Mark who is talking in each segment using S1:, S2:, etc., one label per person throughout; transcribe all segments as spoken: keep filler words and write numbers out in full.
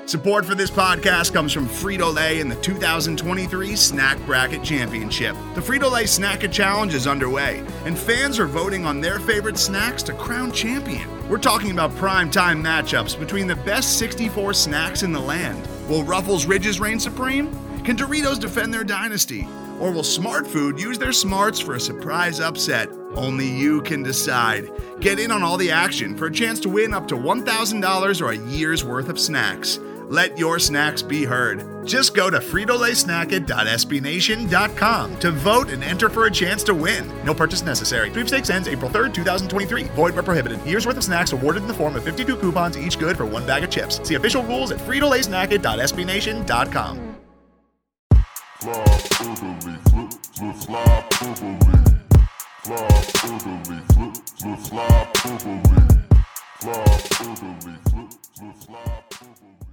S1: Support for this podcast comes from Frito-Lay and the two thousand twenty-three Snack Bracket Championship. The Frito-Lay Snack-A Challenge is underway, and fans are voting on their favorite snacks to crown champion. We're talking about prime-time matchups between the best sixty-four snacks in the land. Will Ruffles Ridges reign supreme? Can Doritos defend their dynasty? Or will Smart Food use their smarts for a surprise upset? Only you can decide. Get in on all the action for a chance to win up to one thousand dollars or a year's worth of snacks. Let your snacks be heard. Just go to Frito Lay Snack It dot S B Nation dot com to vote and enter for a chance to win. No purchase necessary. Sweepstakes ends April third, twenty twenty-three. Void where prohibited. Year's worth of snacks awarded in the form of fifty-two coupons, each good for one bag of chips. See official rules at Frito Lay Snack It dot S B Nation dot com.
S2: Fly orderly, flip, flip, fly orderly. Fly orderly, flip, flip, fly orderly. Fly orderly, flip, flip, fly orderly.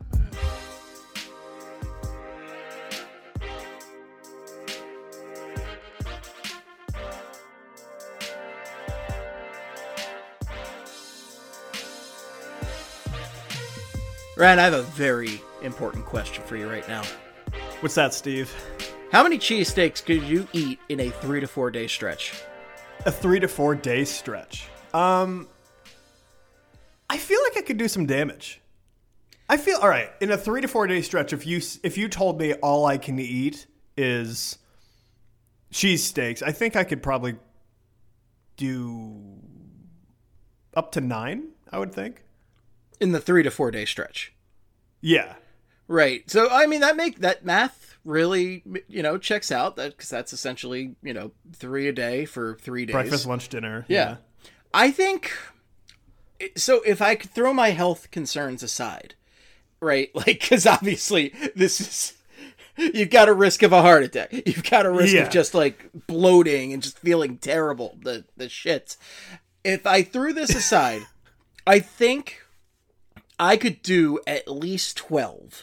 S3: Ryan, I have a very important question for you right now.
S4: What's that, Steve?
S3: How many cheesesteaks could you eat in a three to four day stretch?
S4: A three to four day stretch. Um, I feel like I could do some damage. I feel all right in a three to four day stretch. If you if you told me all I can eat is cheesesteaks, I think I could probably do up to nine. I would think
S3: in the three to four day stretch.
S4: Yeah.
S3: Right. So, I mean, that make that math really, you know, checks out that because that's essentially, you know, three a day for three days.
S4: Breakfast, lunch, dinner.
S3: Yeah.
S4: yeah.
S3: I think so. If I could throw my health concerns aside, right? Like, because obviously this is, you've got a risk of a heart attack. You've got a risk
S4: yeah.
S3: of just like bloating and just feeling terrible. The, the shits. If I threw this aside, I think I could do at least twelve.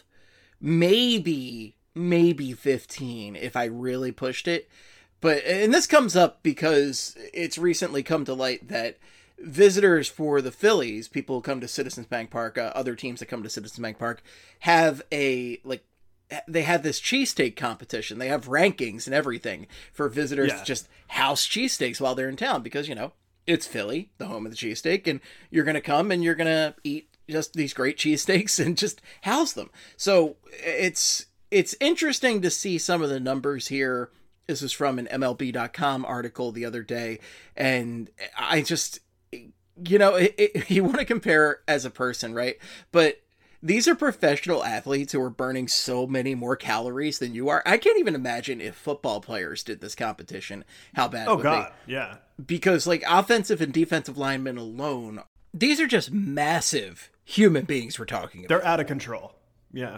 S3: Maybe, maybe fifteen if I really pushed it. But, and this comes up because it's recently come to light that visitors for the Phillies, people who come to Citizens Bank Park, uh, other teams that come to Citizens Bank Park, have a, like, they have this cheesesteak competition. They have rankings and everything for visitors
S4: yeah.
S3: to just house cheesesteaks while they're in town because, you know, it's Philly, the home of the cheesesteak, and you're going to come and you're going to eat just these great cheesesteaks and just house them. So it's it's interesting to see some of the numbers here. This is from an M L B dot com article the other day. And I just, you know, it, it, you want to compare as a person, right? But these are professional athletes who are burning so many more calories than you are. I can't even imagine if football players did this competition, how bad
S4: oh,
S3: it would
S4: God.
S3: be.
S4: Yeah.
S3: Because like offensive and defensive linemen alone, these are just massive human beings we're talking about.
S4: They're out of control. Yeah.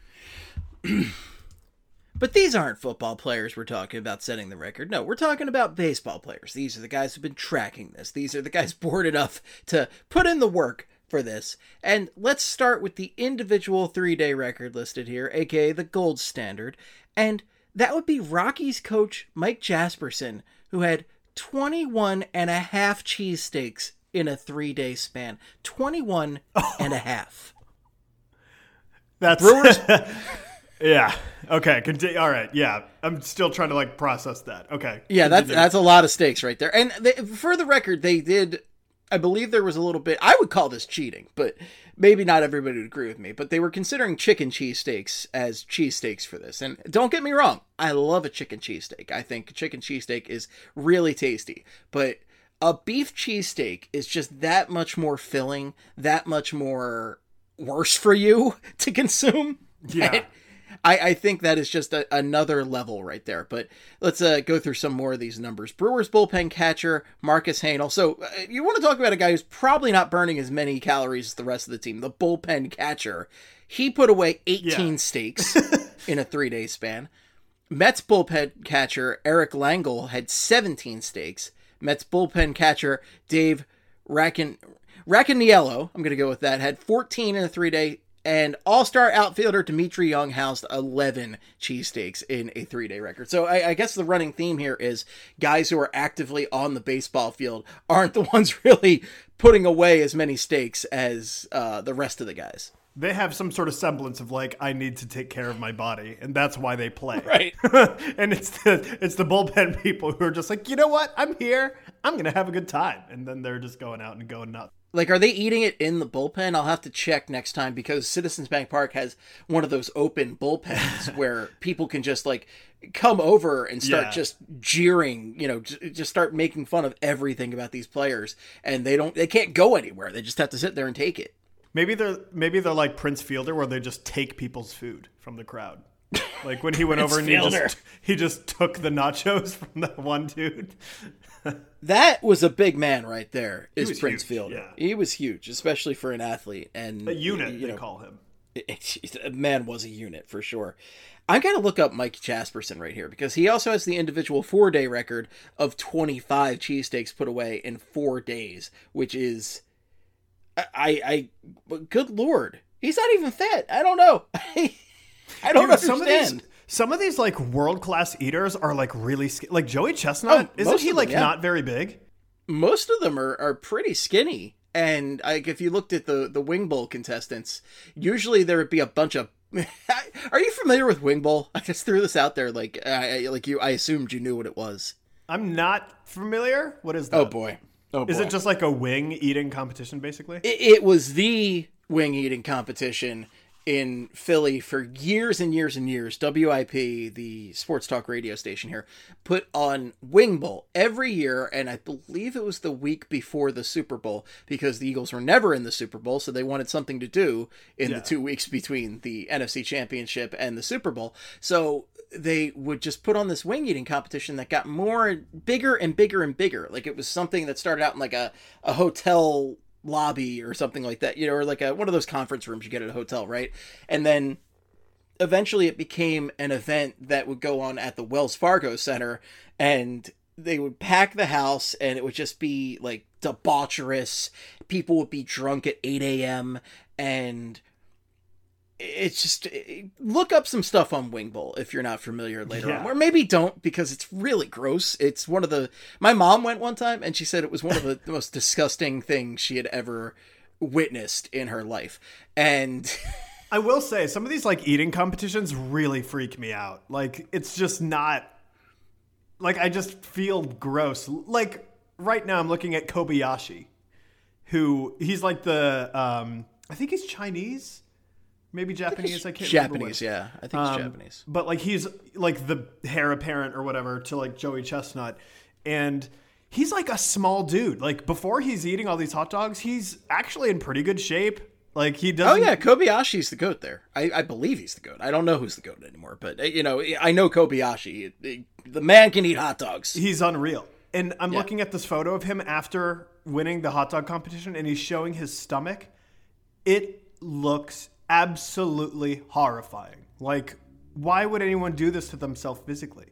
S3: But these aren't football players we're talking about setting the record. No, we're talking about baseball players. These are the guys who've been tracking this. These are the guys bored enough to put in the work for this. And let's start with the individual three-day record listed here, aka the gold standard. And that would be Rockies coach Mike Jasperson, who had twenty-one and a half cheesesteaks in a three-day span. twenty-one oh. and a half.
S4: That's
S3: Brewers.
S4: yeah. Okay. Continue. All right. Yeah. I'm still trying to like process that. Okay.
S3: Yeah, that's
S4: Continue.
S3: that's a lot of steaks right there. And they, for the record, they did. I believe there was a little bit. I would call this cheating, but maybe not everybody would agree with me. But they were considering chicken cheesesteaks as cheesesteaks for this. And don't get me wrong, I love a chicken cheesesteak. I think chicken cheesesteak is really tasty, but a beef cheesesteak is just that much more filling, that much more worse for you to consume.
S4: Yeah.
S3: And I, I think that is just a, another level right there. But let's uh, go through some more of these numbers. Brewers bullpen catcher, Marcus Hanel. So uh, you want to talk about a guy who's probably not burning as many calories as the rest of the team. The bullpen catcher. He put away eighteen yeah. steaks in a three-day span. Mets bullpen catcher, Eric Langle, had seventeen steaks. Mets bullpen catcher Dave Raccan- Raccaniello, I'm going to go with that, had fourteen in a three-day, and all-star outfielder Dimitri Young housed eleven cheesesteaks in a three-day record. So I, I guess the running theme here is guys who are actively on the baseball field aren't the ones really putting away as many steaks as uh, the rest of the guys.
S4: They have some sort of semblance of like, I need to take care of my body, and that's why they play.
S3: Right.
S4: And it's the it's the bullpen people who are just like, you know what? I'm here. I'm gonna have a good time, and then they're just going out and going nuts.
S3: Like, are they eating it in the bullpen? I'll have to check next time because Citizens Bank Park has one of those open bullpens where people can just like come over and start
S4: Yeah.
S3: just jeering, you know, j- just start making fun of everything about these players, and they don't, they can't go anywhere. They just have to sit there and take it.
S4: Maybe they're maybe they're like Prince Fielder, where they just take people's food from the crowd. Like when he went over and he
S3: Fielder.
S4: just he just took the nachos from that one dude.
S3: That was a big man right there. Is
S4: was
S3: Prince
S4: huge,
S3: Fielder?
S4: yeah.
S3: He was huge, especially for an athlete and
S4: A unit,
S3: You
S4: they
S3: know,
S4: call him.
S3: a man was a unit for sure. I gotta look up Mike Jasperson right here because he also has the individual four day record of twenty-five cheesesteaks put away in four days, which is, I, I, I good lord, he's not even fat. I don't know. I don't
S4: Dude,
S3: understand.
S4: some of these some of these like world class eaters are like really sk- like Joey Chestnut.
S3: Oh,
S4: Isn't
S3: most
S4: he
S3: of them,
S4: like
S3: yeah.
S4: not very big?
S3: Most of them are, are pretty skinny. And like if you looked at the, the Wing Bowl contestants, usually there would be a bunch of. Are you familiar with Wing Bowl? I just threw this out there, like I, like you. I assumed you knew what it was.
S4: I'm not familiar. What is that?
S3: Oh boy! Oh boy!
S4: Is it just like a wing eating competition, basically?
S3: It, it was the wing eating competition in Philly for years and years and years. W I P, the sports talk radio station here, put on Wing Bowl every year, and I believe it was the week before the Super Bowl because the Eagles were never in the Super Bowl, so they wanted something to do in
S4: Yeah.
S3: the two weeks between the N F C Championship and the Super Bowl. So they would just put on this wing eating competition that got more bigger and bigger and bigger. Like it was something that started out in like a, a hotel lobby or something like that, you know, or like a, one of those conference rooms you get at a hotel, right? And then eventually it became an event that would go on at the Wells Fargo Center, and they would pack the house and it would just be like debaucherous. People would be drunk at eight a.m. and it's just, look up some stuff on Wing Bowl if you're not familiar later
S4: Yeah.
S3: on, or maybe don't, because it's really gross. It's one of the, my mom went one time and she said it was one of the, the most disgusting things she had ever witnessed in her life. And
S4: I will say some of these like eating competitions really freak me out. Like it's just not like I just feel gross. Like right now I'm looking at Kobayashi, who he's like the um I think he's Chinese. Maybe Japanese. I, can't remember
S3: Japanese,
S4: which.
S3: yeah. I think
S4: Um,
S3: it's Japanese.
S4: But like he's like the heir apparent or whatever to like Joey Chestnut. And he's like a small dude. Like before he's eating all these hot dogs, he's actually in pretty good shape. Like he
S3: Oh
S4: doesn't.
S3: yeah, Kobayashi's the goat there. I, I believe he's the goat. I don't know who's the goat anymore, but uh, you know, I know Kobayashi. The man can eat hot dogs.
S4: He's unreal. And I'm
S3: Yeah.
S4: looking at this photo of him after winning the hot dog competition, and he's showing his stomach. It looks absolutely horrifying. Like, why would anyone do this to themselves physically?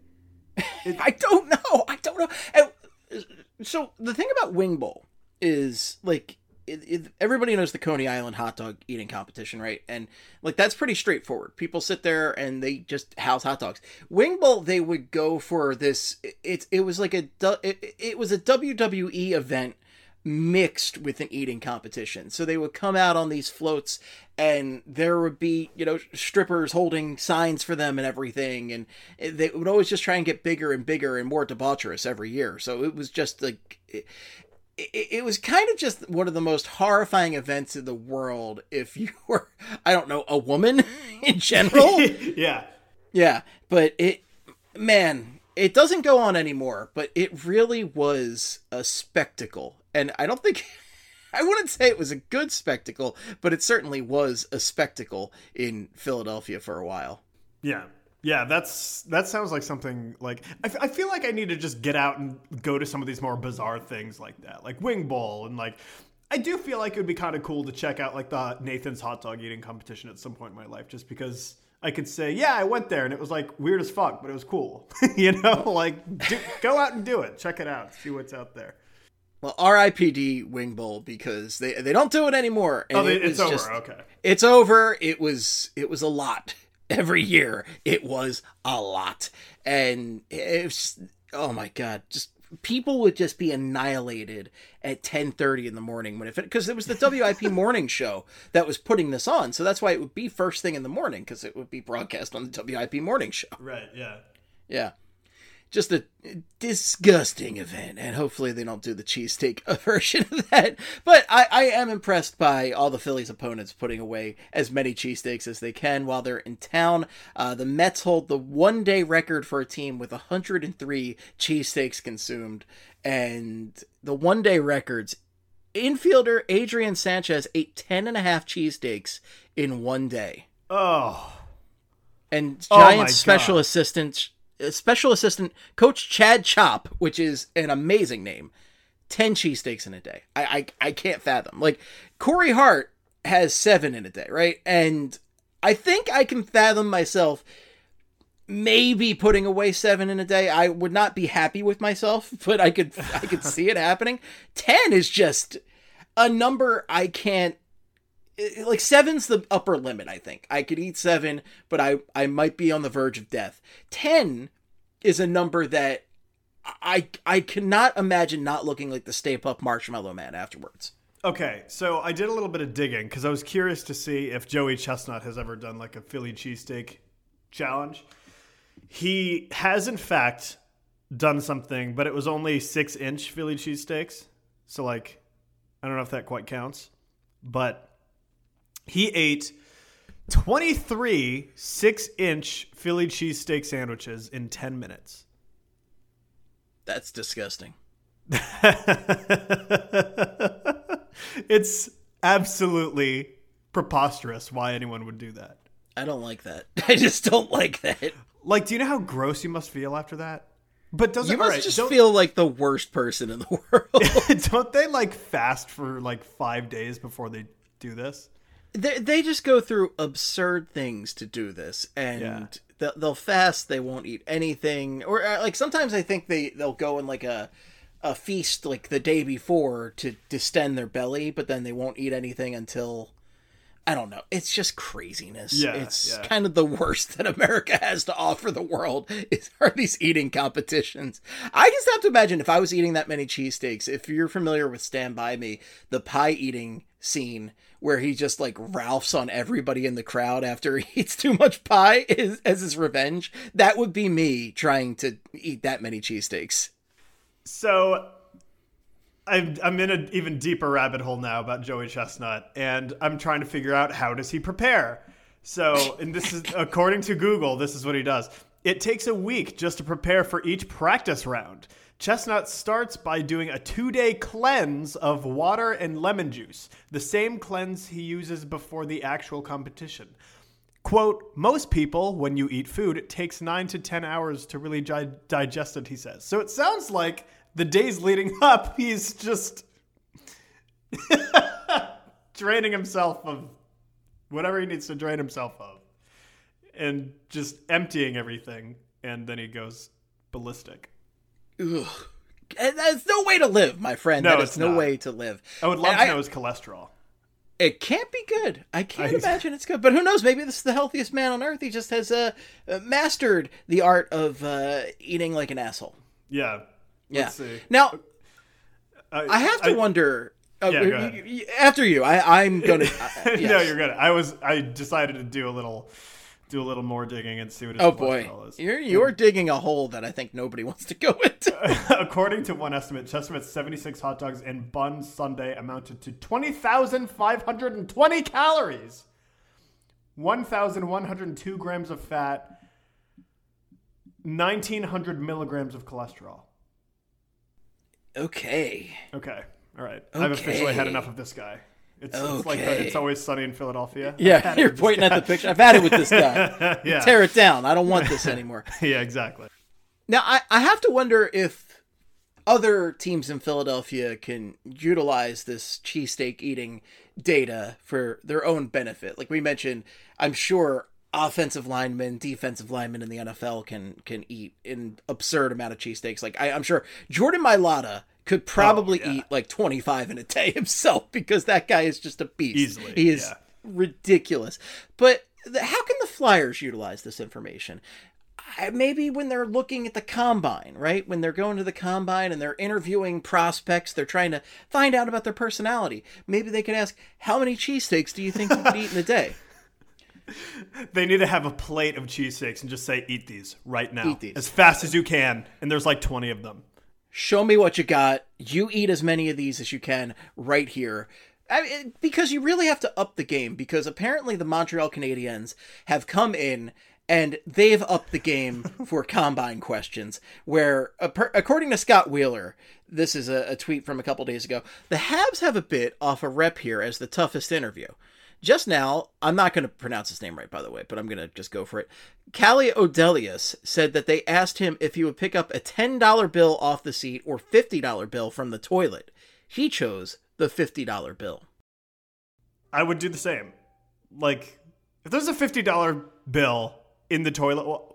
S3: I don't know. I don't know. And, so the thing about Wing Bowl is like it, it, everybody knows the Coney Island hot dog eating competition, right? And like that's pretty straightforward. People sit there and they just house hot dogs. Wing Bowl, they would go for this. It it, it was like a du- it, it was a W W E event mixed with an eating competition. So they would come out on these floats and there would be, you know, strippers holding signs for them and everything. And they would always just try and get bigger and bigger and more debaucherous every year. So it was just like, it, it, it was kind of just one of the most horrifying events in the world if you were, I don't know, a woman in general.
S4: Yeah.
S3: Yeah, but it, man, it doesn't go on anymore, but it really was a spectacle. And I don't think, I wouldn't say it was a good spectacle, but it certainly was a spectacle in Philadelphia for a while.
S4: Yeah. Yeah, that's that sounds like something like I, f- I feel like I need to just get out and go to some of these more bizarre things like that, like Wing Bowl, and like I do feel like it would be kind of cool to check out like the Nathan's hot dog eating competition at some point in my life, just because I could say, yeah, I went there and it was like weird as fuck, but it was cool, you know, like do, go out and do it, check it out, see what's out there.
S3: Well, R I P D Wing Bowl, because they they don't do it anymore. And
S4: Oh, they,
S3: it
S4: it's
S3: was
S4: over.
S3: just-
S4: Okay.
S3: It's over. It was it was a lot every year. It was a lot, and it was just, oh my god, just people would just be annihilated at ten thirty in the morning when it because it was the W I P morning show that was putting this on, so that's why it would be first thing in the morning because it would be broadcast on the W I P morning show.
S4: Right. Yeah.
S3: Yeah. Just a disgusting event, and hopefully they don't do the cheesesteak version of that. But I, I am impressed by all the Phillies' opponents putting away as many cheesesteaks as they can while they're in town. Uh, the Mets hold the one-day record for a team with one hundred three cheesesteaks consumed, and the one-day records. Infielder Adrian Sanchez ate ten and a half cheesesteaks in one day.
S4: Oh.
S3: And
S4: Oh my
S3: Giants special
S4: God.
S3: assistant... Special assistant Coach Chad Chop, which is an amazing name, ten cheesesteaks in a day. I, I I can't fathom. Like, Corey Hart has seven in a day, right? And I think I can fathom myself maybe putting away seven in a day. I would not be happy with myself, but I could I could see it happening. Ten is just a number I can't. Like, seven's the upper limit, I think. I could eat seven, but I, I might be on the verge of death. Ten is a number that I I cannot imagine not looking like the Stay Puft Marshmallow Man afterwards.
S4: Okay, so I did a little bit of digging because I was curious to see if Joey Chestnut has ever done like a Philly cheesesteak challenge. He has, in fact, done something, but it was only six-inch Philly cheesesteaks. So, like, I don't know if that quite counts, but... He ate twenty-three six-inch Philly cheesesteak sandwiches in ten minutes.
S3: That's disgusting.
S4: It's absolutely preposterous why anyone would do that.
S3: I don't like that. I just don't like that.
S4: Like, do you know how gross you must feel after that? But doesn't
S3: You must
S4: right,
S3: just
S4: don't,
S3: feel like the worst person in the world.
S4: don't they like fast for like five days before they do this?
S3: They they just go through absurd things to do this, and
S4: Yeah.
S3: they'll, they'll fast. They won't eat anything, or uh, like sometimes I think they they'll go in like a a feast like the day before to distend their belly, but then they won't eat anything until I don't know. It's just craziness.
S4: Yeah,
S3: it's
S4: yeah.
S3: kind of the worst that America has to offer the world is are these eating competitions. I just have to imagine if I was eating that many cheesesteaks. If you're familiar with Stand By Me, the pie eating scene where he just like Ralphs on everybody in the crowd after he eats too much pie is, as his revenge. That would be me trying to eat that many cheesesteaks.
S4: So I'm, I'm in an even deeper rabbit hole now about Joey Chestnut, and I'm trying to figure out how does he prepare. So, and this is according to Google, this is what he does. It takes a week just to prepare for each practice round. Chestnut starts by doing a two-day cleanse of water and lemon juice, the same cleanse he uses before the actual competition. Quote, most people, when you eat food, it takes nine to ten hours to really gi- digest it, he says. So it sounds like the days leading up, he's just draining himself of whatever he needs to drain himself of and just emptying everything, and then he goes ballistic.
S3: Ugh. That's no way to live, my friend.
S4: No,
S3: that is
S4: it's
S3: no
S4: not.
S3: way to live.
S4: I would love
S3: And
S4: to
S3: I-
S4: know his cholesterol.
S3: It can't be good. I can't
S4: I-
S3: imagine it's good. But who knows? Maybe this is the healthiest man on earth. He just has uh, uh, mastered the art of uh, eating like an asshole.
S4: Yeah.
S3: Yeah.
S4: Let's see.
S3: Now,
S4: I,
S3: I have to
S4: I-
S3: wonder. Uh,
S4: Yeah, go ahead.
S3: y- y- after you, I, I'm gonna. Uh, yes.
S4: No, you're good. I was. I decided to do a little, do a little more digging and see what his
S3: Oh boy,
S4: cholesterol is.
S3: you're you're digging a hole that I think nobody wants to go into.
S4: According to one estimate, Chestnut's seventy-six hot dogs and buns Sunday amounted to twenty thousand five hundred twenty calories, one thousand one hundred two grams of fat, nineteen hundred milligrams of cholesterol.
S3: Okay.
S4: Okay. All right. I've officially had
S3: Okay.
S4: enough of this guy. It's, it's like the,
S3: Okay.
S4: It's Always Sunny in Philadelphia. I've
S3: Yeah,
S4: had it
S3: you're
S4: with this
S3: pointing at
S4: guy.
S3: the picture. I've had it with this guy.
S4: Yeah.
S3: Tear it down. I don't want this anymore.
S4: Yeah, exactly.
S3: Now, I, I have to wonder if other teams in Philadelphia can utilize this cheesesteak eating data for their own benefit. Like we mentioned, I'm sure offensive linemen, defensive linemen in the N F L can can eat an absurd amount of cheesesteaks. Like I, I'm sure Jordan Mailata could probably
S4: Oh, yeah.
S3: eat like twenty-five in a day himself because that guy is just a beast.
S4: Easily,
S3: He is
S4: yeah.
S3: ridiculous. But the, how can the Flyers utilize this information? maybe when they're looking at the combine, right? When they're going to the combine and they're interviewing prospects, they're trying to find out about their personality. Maybe they could ask, how many cheesesteaks do you think you could eat in a day?
S4: They need to have a plate of cheesesteaks and just say, eat these right now.
S3: Eat these.
S4: As fast as you can. And there's like twenty of them.
S3: Show me what you got. You eat as many of these as you can right here. I mean, because you really have to up the game, because apparently the Montreal Canadiens have come in and they've upped the game for combine questions, where, according to Scott Wheeler, this is a, a tweet from a couple days ago, the Habs have a bit off a rep here as the toughest interview. Just now, I'm not going to pronounce his name right, by the way, but I'm going to just go for it. Callie Odelius said that they asked him if he would pick up a ten dollar bill off the seat or fifty dollar bill from the toilet. He chose the fifty dollar bill.
S4: I would do the same. Like, if there's a fifty dollar bill in the toilet, well,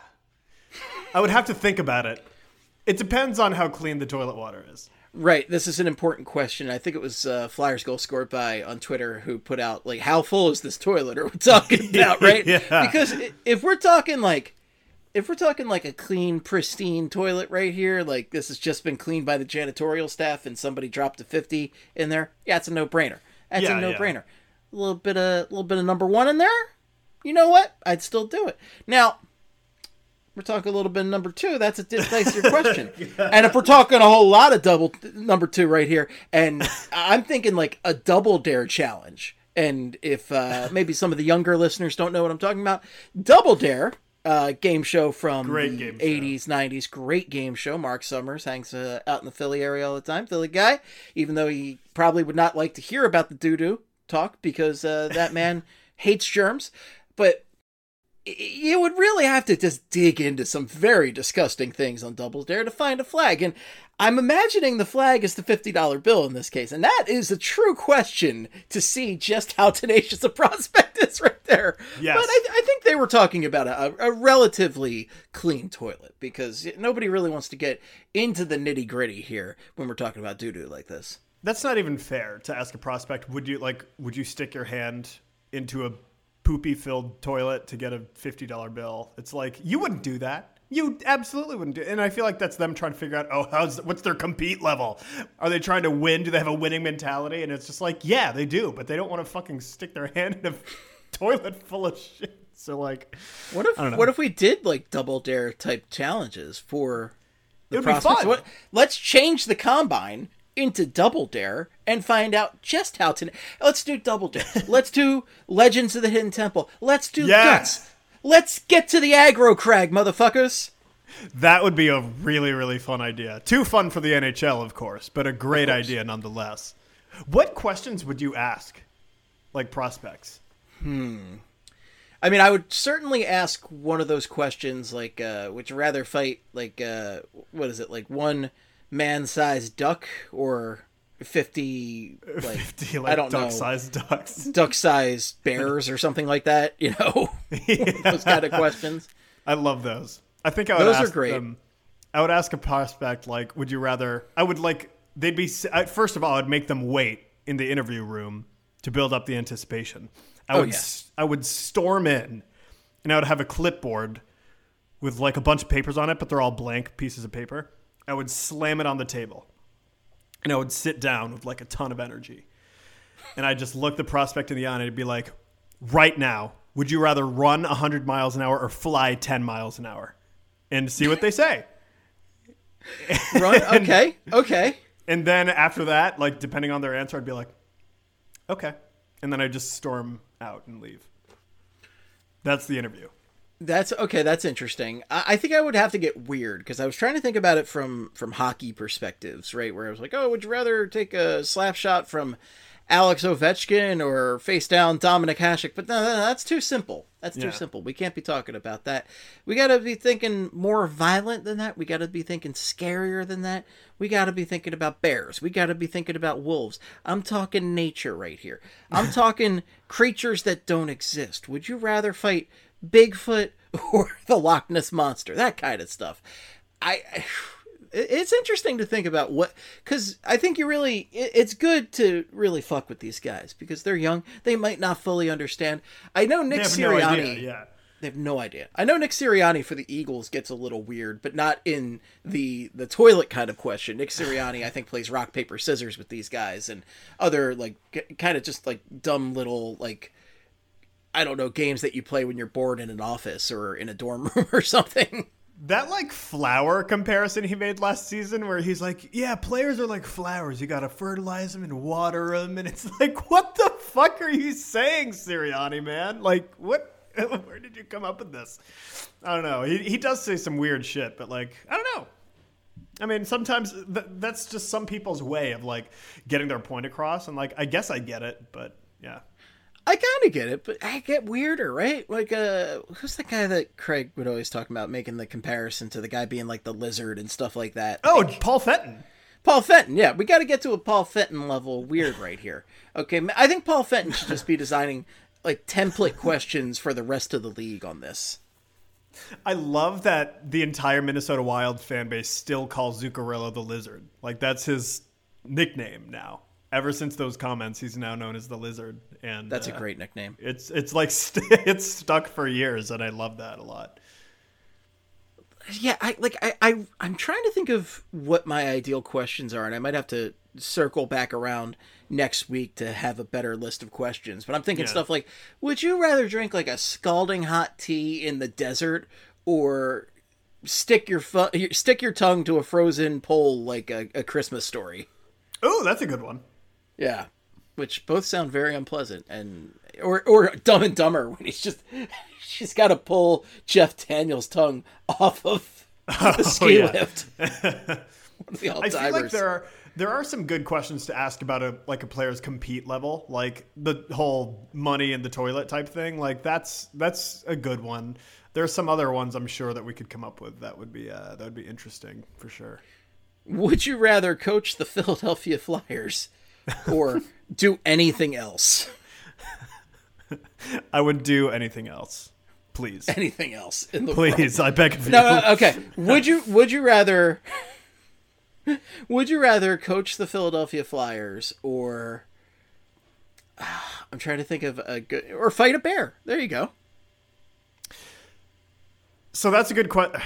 S4: I would have to think about it. It depends on how clean the toilet water is.
S3: Right. This is an important question. I think it was uh, Flyers Goal Scored By on Twitter who put out, like, how full is this toilet are we talking about, right?
S4: Yeah.
S3: Because if we're talking, like, if we're talking, like, a clean, pristine toilet right here, like, this has just been cleaned by the janitorial staff and somebody dropped a fifty in there, yeah, it's a no-brainer. That's
S4: yeah,
S3: a no-brainer.
S4: Yeah.
S3: A little bit of, a little bit of number one in there, you know what? I'd still do it. Now, we're talking a little bit of number two. That's a dicier question. Yeah. And if we're talking a whole lot of double number two right here, and I'm thinking like a double dare challenge. And if uh, maybe some of the younger listeners don't know what I'm talking about, Double Dare, uh, game show from
S4: great
S3: the
S4: game show.
S3: eighties, nineties, great game show. Mark Summers hangs uh, out in the Philly area all the time, Philly guy, even though he probably would not like to hear about the doo-doo talk because uh, that man hates germs. But you would really have to just dig into some very disgusting things on Double Dare to find a flag. And I'm imagining the flag is the fifty dollar bill in this case. And that is a true question to see just how tenacious a prospect is right there.
S4: Yes.
S3: But I, I think they were talking about a, a relatively clean toilet because nobody really wants to get into the nitty gritty here when we're talking about doo-doo like this.
S4: That's not even fair to ask a prospect. Would you like, would you stick your hand into a poopy-filled toilet to get a fifty dollar bill? It's like, you wouldn't do that. You absolutely wouldn't do it. And I feel like that's them trying to figure out, oh, how's what's their compete level? Are they trying to win? Do they have a winning mentality? And it's just like, yeah, they do, but they don't want to fucking stick their hand in a toilet full of shit. So, like,
S3: what if what if we did, like, Double Dare type challenges for the
S4: it would
S3: prospects?
S4: be fun.
S3: What, let's change the combine into Double Dare and find out just how to. Let's do Double Dare. Let's do Legends of the Hidden Temple. Let's do
S4: yes.
S3: Guts. Let's get to the aggro crag, motherfuckers.
S4: That would be a really, really fun idea. Too fun for the N H L, of course, but a great idea nonetheless. What questions would you ask, like prospects?
S3: Hmm. I mean, I would certainly ask one of those questions, like, uh, would you rather fight, like, uh, what is it, like one man-sized duck or fifty like,
S4: fifty, like
S3: I don't
S4: duck-sized
S3: know
S4: ducks,
S3: duck-sized bears or something like that, you know. Yeah. Those kind of questions.
S4: I love those. I think I would
S3: those
S4: ask
S3: are great.
S4: them, I would ask a prospect, like, would you rather, I would like, they'd be, first of all, I'd make them wait in the interview room to build up the anticipation. I
S3: oh,
S4: would
S3: yeah.
S4: I would storm in and I would have a clipboard with like a bunch of papers on it, but they're all blank pieces of paper. I would slam it on the table and I would sit down with like a ton of energy. And I'd just look the prospect in the eye and I'd be like, right now, would you rather run one hundred miles an hour or fly ten miles an hour? And see what they say.
S3: Run? Okay. Okay.
S4: And then after that, like depending on their answer, I'd be like, okay. And then I'd just storm out and leave. That's the interview.
S3: That's okay. That's interesting. I, I think I would have to get weird because I was trying to think about it from from hockey perspectives, right? Where I was like, oh, would you rather take a slap shot from Alex Ovechkin or face down Dominic Hasek? But no, no, no that's too simple. That's too
S4: yeah.
S3: simple. We can't be talking about that. We got to be thinking more violent than that. We got to be thinking scarier than that. We got to be thinking about bears. We got to be thinking about wolves. I'm talking nature right here. I'm talking creatures that don't exist. Would you rather fight Bigfoot or the Loch Ness Monster? That kind of stuff. I... I It's interesting to think about what, because I think you really, it's good to really fuck with these guys because they're young. They might not fully understand. I know Nick
S4: They have no
S3: Sirianni.
S4: idea, yeah.
S3: They have no idea. I know Nick Sirianni for the Eagles gets a little weird, but not in the the toilet kind of question. Nick Sirianni, I think, plays rock, paper, scissors with these guys and other, like, g- kind of just, like, dumb little, like, I don't know, games that you play when you're bored in an office or in a dorm room or something.
S4: That, like, flower comparison he made last season where he's like, yeah, players are like flowers. You got to fertilize them and water them. And it's like, what the fuck are you saying, Sirianni, man? Like, what? Where did you come up with this? I don't know. He he does say some weird shit, but, like, I don't know. I mean, sometimes th- that's just some people's way of, like, getting their point across. And, like, I guess I get it, but, yeah.
S3: I kind of get it, but I get weirder, right? Like, uh, who's the guy that Craig would always talk about, making the comparison to the guy being like the lizard and stuff like that?
S4: Oh,
S3: Like,
S4: Paul Fenton.
S3: Paul Fenton, yeah. We got to get to a Paul Fenton level weird right here. Okay, I think Paul Fenton should just be designing, like, template questions for the rest of the league on this.
S4: I love that the entire Minnesota Wild fan base still calls Zuccarello the Lizard. Like, that's his nickname now. Ever since those comments, he's now known as the Lizard, and
S3: That's
S4: uh,
S3: a great nickname.
S4: It's it's like st- it's stuck for years, and I love that a lot.
S3: Yeah, I like I, I I'm trying to think of what my ideal questions are, and I might have to circle back around next week to have a better list of questions. But I'm thinking
S4: Yeah.
S3: stuff like, would you rather drink like a scalding hot tea in the desert, or stick your fu- stick your tongue to a frozen pole like a, a Christmas Story?
S4: Oh, that's a good one.
S3: Yeah, which both sound very unpleasant, and or or Dumb and Dumber when he's just she's got to pull Jeff Daniels' tongue off of the ski
S4: yeah.
S3: lift. One of the
S4: I feel like
S3: all-timers.
S4: there are there are some good questions to ask about a like a player's compete level, like the whole money in the toilet type thing. Like that's that's a good one. There's some other ones I'm sure that we could come up with that would be uh, that would be interesting for sure.
S3: Would you rather coach the Philadelphia Flyers or do anything else?
S4: I would do anything else, please.
S3: Anything else in the world?
S4: Please, I beg of you.
S3: No, no, okay. Would you would you rather would you rather coach the Philadelphia Flyers or I'm trying to think of a good or fight a bear. There you go.
S4: So that's a good question.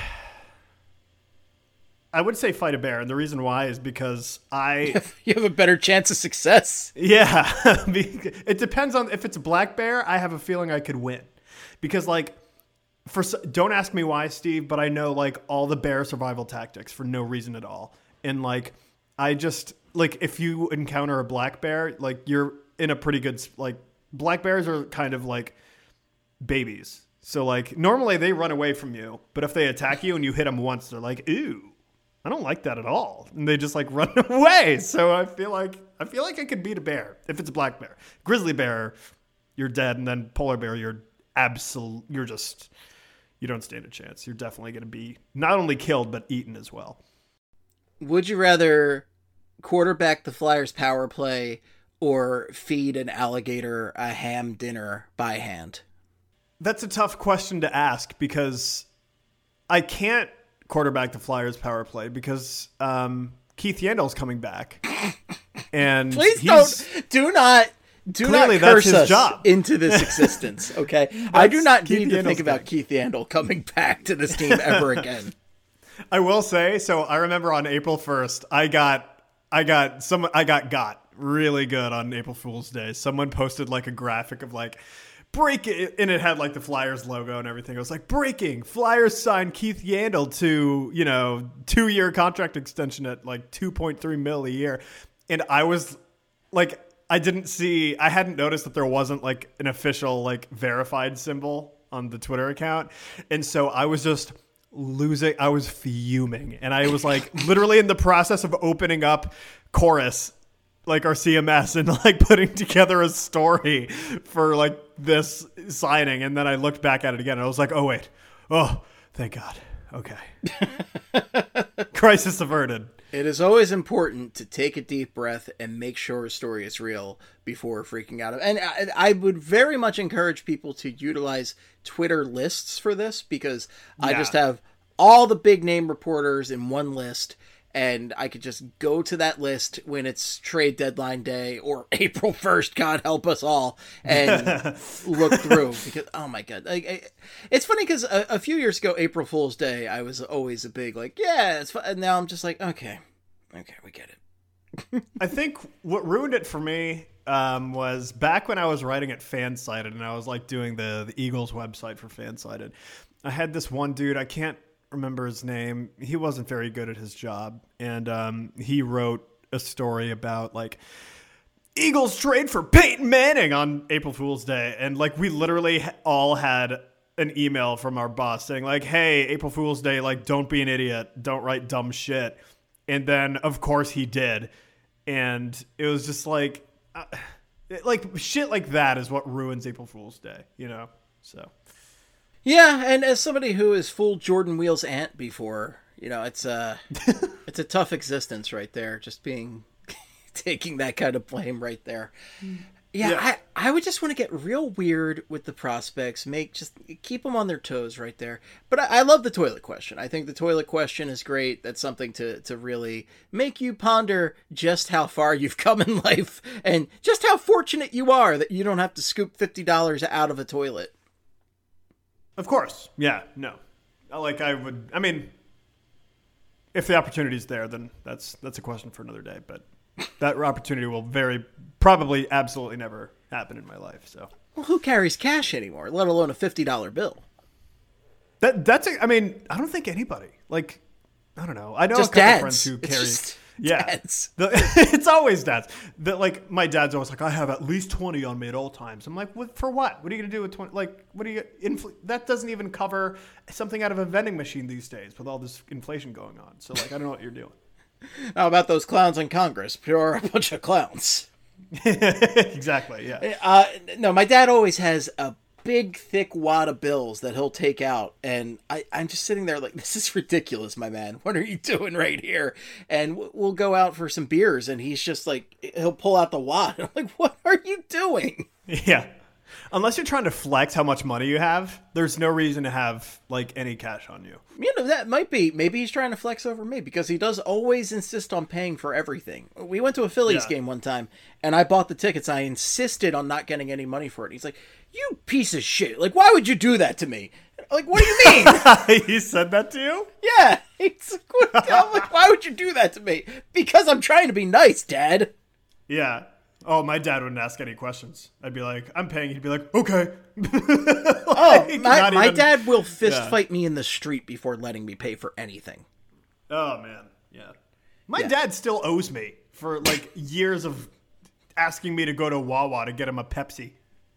S4: I would say fight a bear, and the reason why is because I
S3: You have a better chance of success.
S4: yeah, it depends on if it's a black bear. I have a feeling I could win because like for don't ask me why, Steve, but I know like all the bear survival tactics for no reason at all, and like I just like if you encounter a black bear, like you're in a pretty good like black bears are kind of like babies. So like normally they run away from you, but if they attack you and you hit them once, they're like, "Ooh, I don't like that at all," and they just like run away. So I feel like I feel like I could beat a bear if it's a black bear. Grizzly bear, you're dead, and then polar bear, you're absolute. You're just you don't stand a chance. You're definitely going to be not only killed but eaten as well.
S3: Would you rather quarterback the Flyers power play or feed an alligator a ham dinner by hand?
S4: That's a tough question to ask because I can't quarterback the Flyers power play because um, Keith Yandel's coming back. And
S3: Please
S4: he's,
S3: don't, do not, do
S4: Clearly
S3: not
S4: that's
S3: curse
S4: his
S3: us
S4: job.
S3: into this existence, okay? I do not
S4: Keith
S3: need to
S4: Yandel's
S3: think about
S4: thing.
S3: Keith Yandel coming back to this team ever again.
S4: I will say, so I remember on April first, I got, I got some, I got got really good on April Fool's Day. Someone posted like a graphic of like, break it, and it had like the Flyers logo and everything. It was like, breaking, Flyers signed Keith Yandel to, you know, two-year contract extension at like two point three mil a year. And I was like, I didn't see, I hadn't noticed that there wasn't like an official like verified symbol on the Twitter account. And so I was just losing, I was fuming. And I was like literally in the process of opening up Chorus, like our C M S, and like putting together a story for like this signing. And then I looked back at it again and I was like, oh wait, oh, thank God. Okay. Crisis averted.
S3: It is always important to take a deep breath and make sure a story is real before freaking out. And I, I would very much encourage people to utilize Twitter lists for this because I
S4: Yeah.
S3: just have all the big name reporters in one list. and I could just go to that list when it's trade deadline day or April first, God help us all, and look through because, oh my God. Like, I, it's funny because a, a few years ago, April Fool's Day, I was always a big like, yeah, it's fun. And now I'm just like, okay, okay, we get it.
S4: I think what ruined it for me um, was back when I was writing at Fansided and I was like doing the, the Eagles website for Fansided. I had this one dude, I can't remember his name. He wasn't very good at his job. And um, he wrote a story about like Eagles trade for Peyton Manning on April Fool's Day. And like we literally all had an email from our boss saying like, hey, April Fool's Day, like don't be an idiot. Don't write dumb shit. And then of course he did. And it was just like, uh, like shit like that is what ruins April Fool's Day, you know? So.
S3: Yeah, and as somebody who has fooled Jordan Wheel's aunt before, you know, it's a it's a tough existence right there. Just being taking that kind of blame right there. Yeah, yeah. I, I would just want to get real weird with the prospects. Make just keep them on their toes right there. But I, I love the toilet question. I think the toilet question is great. That's something to to really make you ponder just how far you've come in life and just how fortunate you are that you don't have to scoop fifty dollars out of a toilet.
S4: Of course. Yeah, no. Like I would, I mean, if the opportunity is there, then that's that's a question for another day. But that opportunity will very, probably absolutely never happen in my life. So,
S3: well, who carries cash anymore, let alone a fifty dollar bill?
S4: That That's, a, I mean, I don't think anybody. Like, I don't know. I know
S3: just
S4: a couple
S3: dads.
S4: friends who
S3: It's
S4: carry.
S3: just
S4: Yeah,
S3: dads.
S4: The, it's always dads. That like my dad's always like, I have at least twenty on me at all times. I'm like, what, for what? What are you gonna do with twenty? Like, what are you? Infl- that doesn't even cover something out of a vending machine these days with all this inflation going on. So like, I don't know what you're doing.
S3: How about those clowns in Congress? Pure a bunch of clowns.
S4: Exactly. Yeah.
S3: Uh, no, my dad always has a big, thick wad of bills that he'll take out, and I, I'm just sitting there like, this is ridiculous, my man. What are you doing right here? And we'll go out for some beers, and he's just like, he'll pull out the wad. I'm like, what are you doing?
S4: Yeah. Unless you're trying to flex how much money you have, there's no reason to have like any cash on you.
S3: You know, that might be, maybe he's trying to flex over me because he does always insist on paying for everything. We went to a Phillies
S4: Yeah.
S3: game one time, and I bought the tickets. I insisted on not getting any money for it. He's like, you piece of shit. Like, why would you do that to me? Like, what do you mean?
S4: He said that to you?
S3: Yeah. He's like, what, I'm like, why would you do that to me? Because I'm trying to be nice, Dad.
S4: Yeah. Oh, my dad wouldn't ask any questions. I'd be like, I'm paying. He'd be like, okay.
S3: Oh,
S4: Like,
S3: my,
S4: not
S3: my
S4: even-
S3: dad will fist
S4: Yeah.
S3: fight me in the street before letting me pay for anything.
S4: Oh, man. Yeah. My
S3: Yeah.
S4: dad still owes me for like years of asking me to go to Wawa to get him a Pepsi.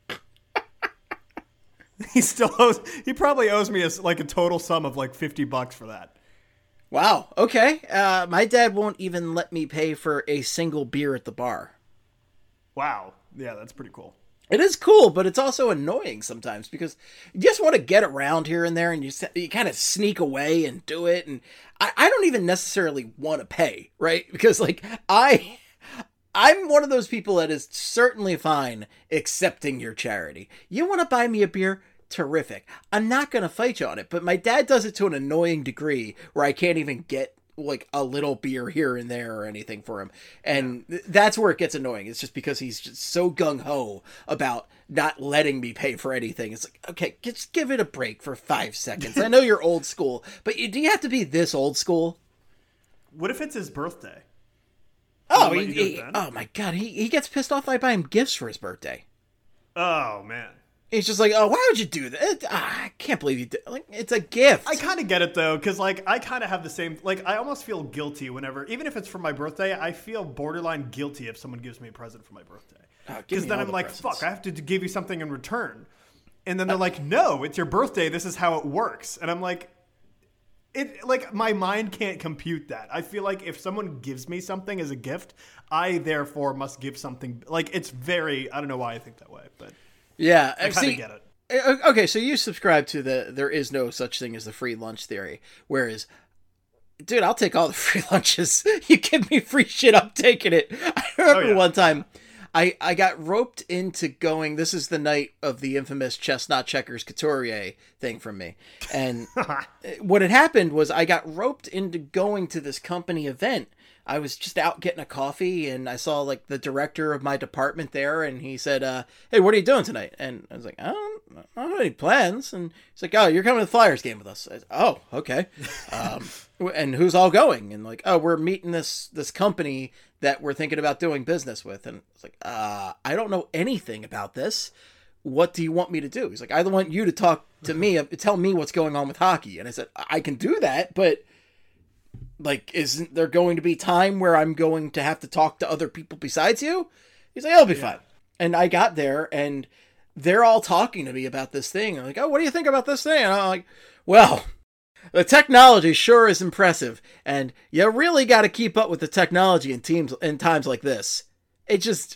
S4: He still owes, he probably owes me a, like a total sum of like fifty bucks for that.
S3: Wow. Okay. Uh, my dad won't even let me pay for a single beer at the bar.
S4: Wow. Yeah, that's pretty cool.
S3: It is cool, but it's also annoying sometimes because you just want to get around here and there, and you you kind of sneak away and do it. And I, I don't even necessarily want to pay, right? Because like I, I'm one of those people that is certainly fine accepting your charity. You want to buy me a beer? Terrific. I'm not going to fight you on it, but my dad does it to an annoying degree where I can't even get like a little beer here and there or anything for him. And th- that's where it gets annoying. It's just because he's just so gung-ho about not letting me pay for anything. It's like, okay, just give it a break for five seconds. I know you're old school, but you, do you have to be this old school?
S4: What if it's his birthday?
S3: Oh,
S4: Will
S3: he,
S4: he do it
S3: he-
S4: then?
S3: oh my God. He, he gets pissed off if I buy him gifts for his birthday.
S4: Oh, man.
S3: He's just like, oh, why would you do that? Ah, I can't believe you did. Like, it's a gift.
S4: I kind of get it though, because like I kind of have the same. Like I almost feel guilty whenever, even if it's for my birthday, I feel borderline guilty if someone gives me a present for my birthday.
S3: Oh, give
S4: Because
S3: me
S4: then
S3: all
S4: I'm
S3: the
S4: like,
S3: presents.
S4: fuck, I have to give you something in return. And then they're like, no, it's your birthday. This is how it works. And I'm like, it like my mind can't compute that. I feel like if someone gives me something as a gift, I therefore must give something. Like it's very. I don't know why I think that way, but
S3: yeah,
S4: I kind
S3: see,
S4: of get it.
S3: Okay, so you subscribe to the there is no such thing as the free lunch theory, whereas, dude, I'll take all the free lunches. You give me free shit, I'm taking it. I remember
S4: Oh, yeah.
S3: one time I, I got roped into going, this is the night of the infamous chestnut checkers couturier thing from me. And what had happened was I got roped into going to this company event. I was just out getting a coffee and I saw like the director of my department there and he said, uh, hey, what are you doing tonight? And I was like, I don't, I don't have any plans. And he's like, oh, you're coming to the Flyers game with us. I said, oh, okay. Um, and who's all going? And like, oh, we're meeting this, this company that we're thinking about doing business with. And it's like, uh, I don't know anything about this. What do you want me to do? He's like, I want you to talk to me, tell me what's going on with hockey. And I said, I can do that, but like, isn't there going to be time where I'm going to have to talk to other people besides you? He's like, I'll be yeah. fine. And I got there and they're all talking to me about this thing. I'm like, oh, what do you think about this thing? And I'm like, well, the technology sure is impressive. And you really got to keep up with the technology in teams in times like this. It just,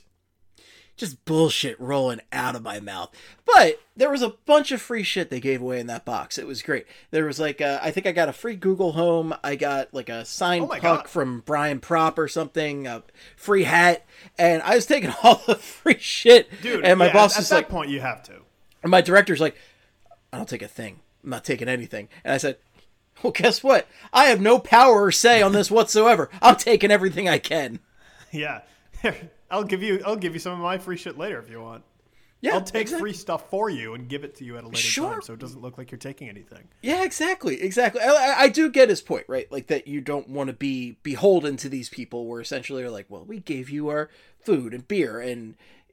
S3: just bullshit rolling out of my mouth. But there was a bunch of free shit they gave away in that box. It was great. There was like, a, I think I got a free Google Home. I got like a signed
S4: oh
S3: puck
S4: God.
S3: from Brian Propp or something, a free hat. And I was taking all the free shit.
S4: Dude,
S3: and my
S4: yeah,
S3: boss
S4: at,
S3: was
S4: at
S3: like,
S4: that point you have to.
S3: And my director's like, I don't take a thing. I'm not taking anything. And I said, well, guess what? I have no power or say on this whatsoever. I'm taking everything I can.
S4: Yeah. I'll give you I'll give you some of my free shit later if you want.
S3: Yeah,
S4: I'll take
S3: exactly.
S4: free stuff for you and give it to you at a later
S3: Sure.
S4: time so it doesn't look like you're taking anything.
S3: Yeah, exactly. Exactly. I, I do get his point, right? Like that you don't want to be beholden to these people where essentially are like, well, we gave you our food and beer and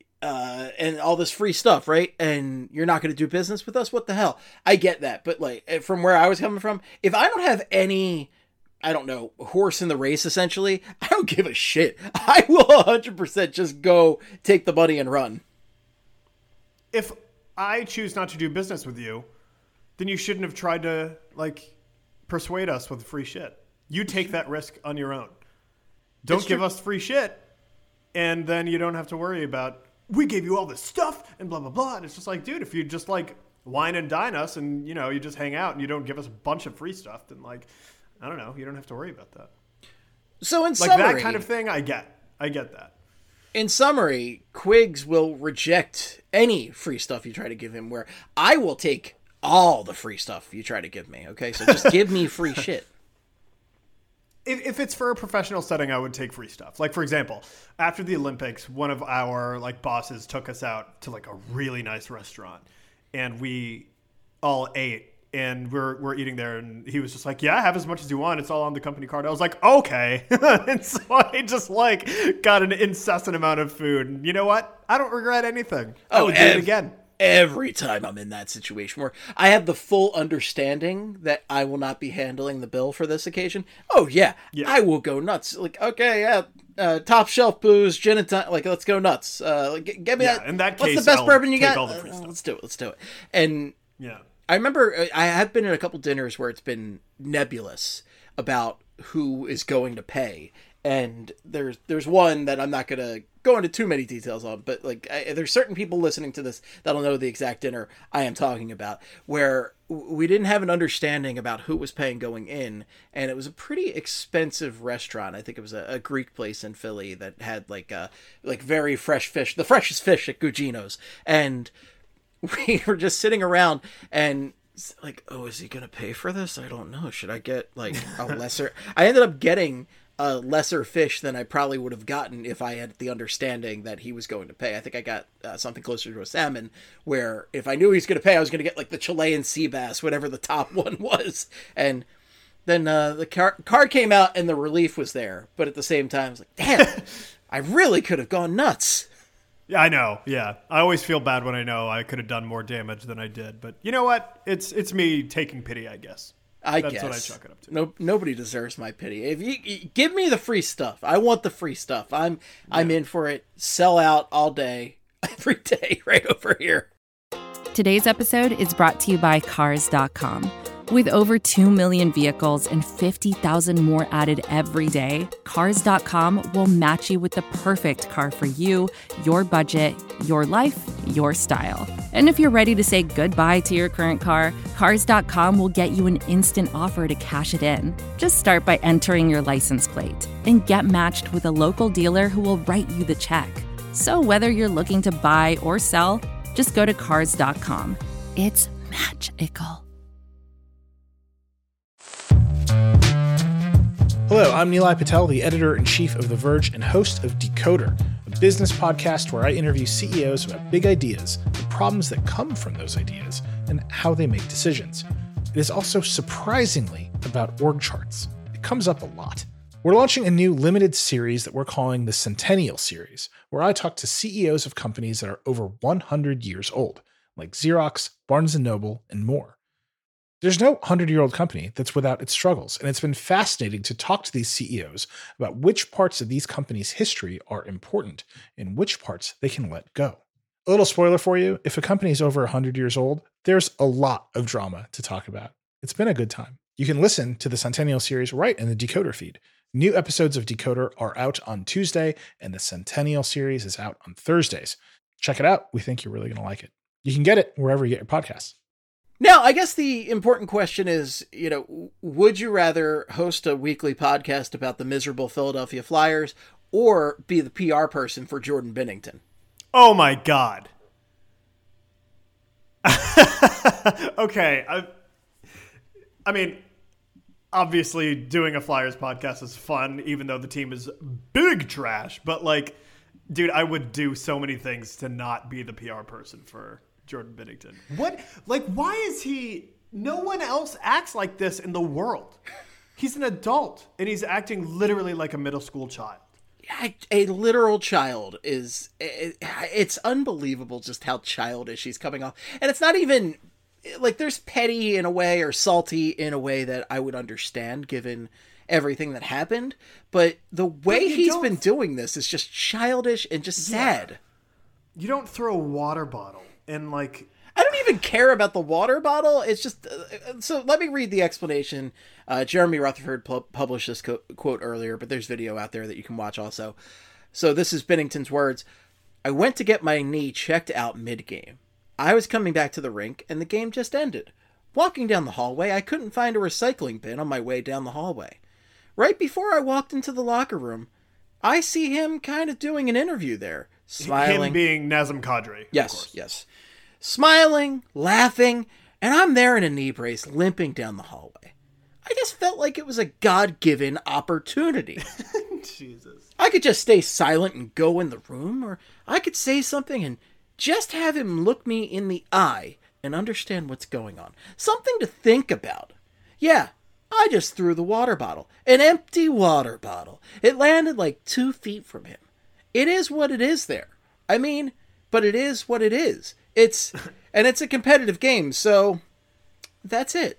S3: uh, and all this free stuff, right? And you're not going to do business with us? What the hell? I get that. But like from where I was coming from, if I don't have any, I don't know, horse in the race, essentially, I don't give a shit. I will one hundred percent just go take the money and run.
S4: If I choose not to do business with you, then you shouldn't have tried to, like, persuade us with free shit. You take that risk on your own. Don't
S3: It's
S4: give
S3: true.
S4: us free shit, and then you don't have to worry about, we gave you all this stuff, and blah, blah, blah. And it's just like, dude, if you just, like, wine and dine us, and, you know, you just hang out, and you don't give us a bunch of free stuff, then, like, I don't know, you don't have to worry about that.
S3: So in
S4: Like,
S3: summary,
S4: that kind of thing, I get. I get that.
S3: in summary, Quiggs will reject any free stuff you try to give him, where I will take all the free stuff you try to give me. Okay, so just give me free shit.
S4: If, if it's for a professional setting, I would take free stuff. Like, for example, after the Olympics, one of our like bosses took us out to like a really nice restaurant, and we all ate. And we're we're eating there, and he was just like, "Yeah, have as much as you want. It's all on the company card." I was like, "Okay," and so I just like got an incessant amount of food. And you know what? I don't regret anything. I
S3: Oh,
S4: would do
S3: ev-
S4: it again.
S3: Every time I'm in that situation where I have the full understanding that I will not be handling the bill for this occasion. Oh yeah,
S4: Yeah.
S3: I will go nuts. Like, okay, yeah, uh, top shelf booze, gin and tonic. Like, let's go nuts. Uh, like, g- get me
S4: Yeah,
S3: that.
S4: in that
S3: what's
S4: case,
S3: the best
S4: I'll
S3: bourbon you
S4: take
S3: got?
S4: all the free
S3: Uh,
S4: stuff.
S3: let's do it. Let's do it. And
S4: Yeah.
S3: I remember I have been at a couple dinners where it's been nebulous about who is going to pay, and there's there's one that I'm not going to go into too many details on, but like I, there's certain people listening to this that'll know the exact dinner I am talking about, where w- we didn't have an understanding about who was paying going in, and it was a pretty expensive restaurant. I think it was a, a Greek place in Philly that had like a like very fresh fish, the freshest fish at Gugino's, and we were just sitting around and like, oh, is he gonna pay for this? I don't know. Should I get like a lesser? I ended up getting a lesser fish than I probably would have gotten if I had the understanding that he was going to pay. I think I got uh, something closer to a salmon, where if I knew he was going to pay, I was going to get like the Chilean sea bass, whatever the top one was. And then uh, the car- card came out and the relief was there, but at the same time, I was like, damn, I really could have gone nuts.
S4: Yeah, I know. Yeah, I always feel bad when I know I could have done more damage than I did. But you know what? It's it's me taking pity, I guess.
S3: I
S4: That's
S3: guess.
S4: what I chalk it up to.
S3: No, nobody deserves my pity. If you, you give me the free stuff, I want the free stuff. I'm I'm in for it. Sell out all day, every day, right over here.
S5: Today's episode is brought to you by Cars dot com. With over two million vehicles and fifty thousand more added every day, Cars dot com will match you with the perfect car for you, your budget, your life, your style. And if you're ready to say goodbye to your current car, Cars dot com will get you an instant offer to cash it in. Just start by entering your license plate and get matched with a local dealer who will write you the check. So whether you're looking to buy or sell, just go to cars dot com. It's magical.
S6: Hello, I'm Nilay Patel, the editor-in-chief of The Verge and host of Decoder, a business podcast where I interview C E Os about big ideas, the problems that come from those ideas, and how they make decisions. It is also surprisingly about org charts. It comes up a lot. We're launching a new limited series that we're calling the Centennial Series, where I talk to C E Os of companies that are over one hundred years old, like Xerox, Barnes and Noble, and more. There's no hundred-year-old company that's without its struggles, and it's been fascinating to talk to these C E Os about which parts of these companies' history are important and which parts they can let go. A little spoiler for you, if a company is over one hundred years old, there's a lot of drama to talk about. It's been a good time. You can listen to the Centennial Series right in the Decoder feed. New episodes of Decoder are out on Tuesday, and the Centennial Series is out on Thursdays. Check it out. We think you're really going to like it. You can get it wherever you get your podcasts.
S3: Now, I guess the important question is, you know, would you rather host a weekly podcast about the miserable Philadelphia Flyers or be the P R person for Jordan Binnington?
S4: Oh my God. Okay. I, I mean, obviously doing a Flyers podcast is fun, even though the team is big trash. But like, dude, I would do so many things to not be the P R person for Jordan Binnington. What? Like, why is he... No one else acts like this in the world. He's an adult, and he's acting literally like a middle school child.
S3: A, a literal child is... It, it's unbelievable just how childish he's coming off. And it's not even... Like, there's petty in a way or salty in a way that I would understand given everything that happened. But the way
S4: but
S3: he's
S4: don't...
S3: been doing this is just childish and just
S4: yeah.
S3: sad.
S4: You don't throw a water bottle. And like,
S3: I don't even care about the water bottle. It's just, uh, so let me read the explanation. Uh, Jeremy Rutherford pu- published this co- quote earlier, but there's video out there that you can watch also. So this is Binnington's words. I went to get my knee checked out mid-game. I was coming back to the rink and the game just ended. Walking down the hallway, I couldn't find a recycling bin on my way down the hallway. Right before I walked into the locker room, I see him kind of doing an interview there. Smiling.
S4: Him being Nazem Kadri.
S3: Yes, yes. Smiling, laughing, and I'm there in a knee brace, limping down the hallway. I just felt like it was a God-given opportunity.
S4: Jesus.
S3: I could just stay silent and go in the room, or I could say something and just have him look me in the eye and understand what's going on. Something to think about. Yeah, I just threw the water bottle. An empty water bottle. It landed like two feet from him. It is what it is there. I mean, but it is what it is. It's, and it's a competitive game, so that's it.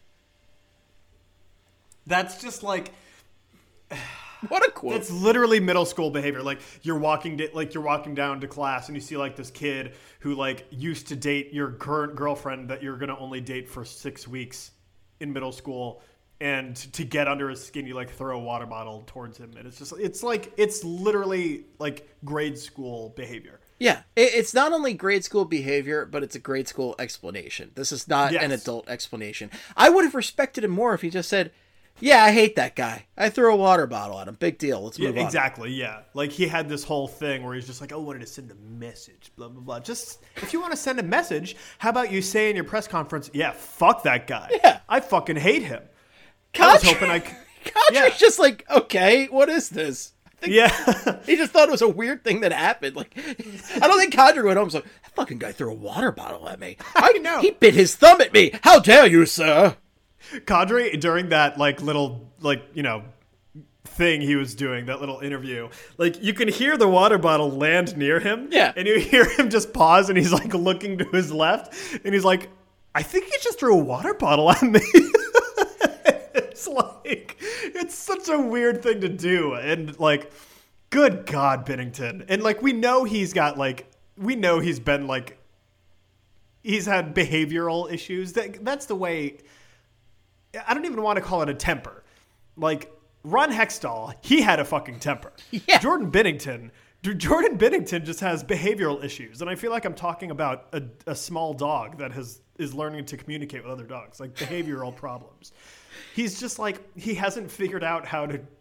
S4: That's just like,
S3: what a quote.
S4: It's literally middle school behavior. Like you're walking, di- like you're walking down to class and you see like this kid who like used to date your current girlfriend that you're going to only date for six weeks in middle school. And to get under his skin, you like throw a water bottle towards him. And it's just, it's like, it's literally like grade school behavior.
S3: Yeah. It's not only grade school behavior, but it's a grade school explanation. This is not
S4: yes.
S3: an adult explanation. I would have respected him more if he just said, yeah, I hate that guy. I threw a water bottle at him. Big deal. Let's move
S4: yeah,
S3: on.
S4: Exactly. Yeah. Like he had this whole thing where he's just like, oh, I wanted to send a message, blah, blah, blah. Just if you want to send a message, how about you say in your press conference, yeah, fuck that guy.
S3: Yeah.
S4: I fucking hate him.
S3: Kadri,
S4: I was hoping I could.
S3: Kadri's
S4: yeah.
S3: just like, okay, what is this? I think
S4: Yeah.
S3: he just thought it was a weird thing that happened. Like, I don't think Kadri went home and was like, that fucking guy threw a water bottle at me. I,
S4: I know.
S3: He bit his thumb at me. How dare you, sir?
S4: Kadri, during that like little like you know thing he was doing, that little interview, like you can hear the water bottle land near him.
S3: Yeah.
S4: And you hear him just pause and he's like looking to his left and he's like, I think he just threw a water bottle at me. It's like, it's such a weird thing to do. And like, good God, Binnington. And like, we know he's got like, we know he's been like, he's had behavioral issues. That That's the way, I don't even want to call it a temper. Like, Ron Hextall, he had a fucking temper.
S3: Yeah.
S4: Jordan Binnington, Jordan Binnington just has behavioral issues. And I feel like I'm talking about a, a small dog that has is learning to communicate with other dogs, like behavioral problems. He's just like, he hasn't figured out how to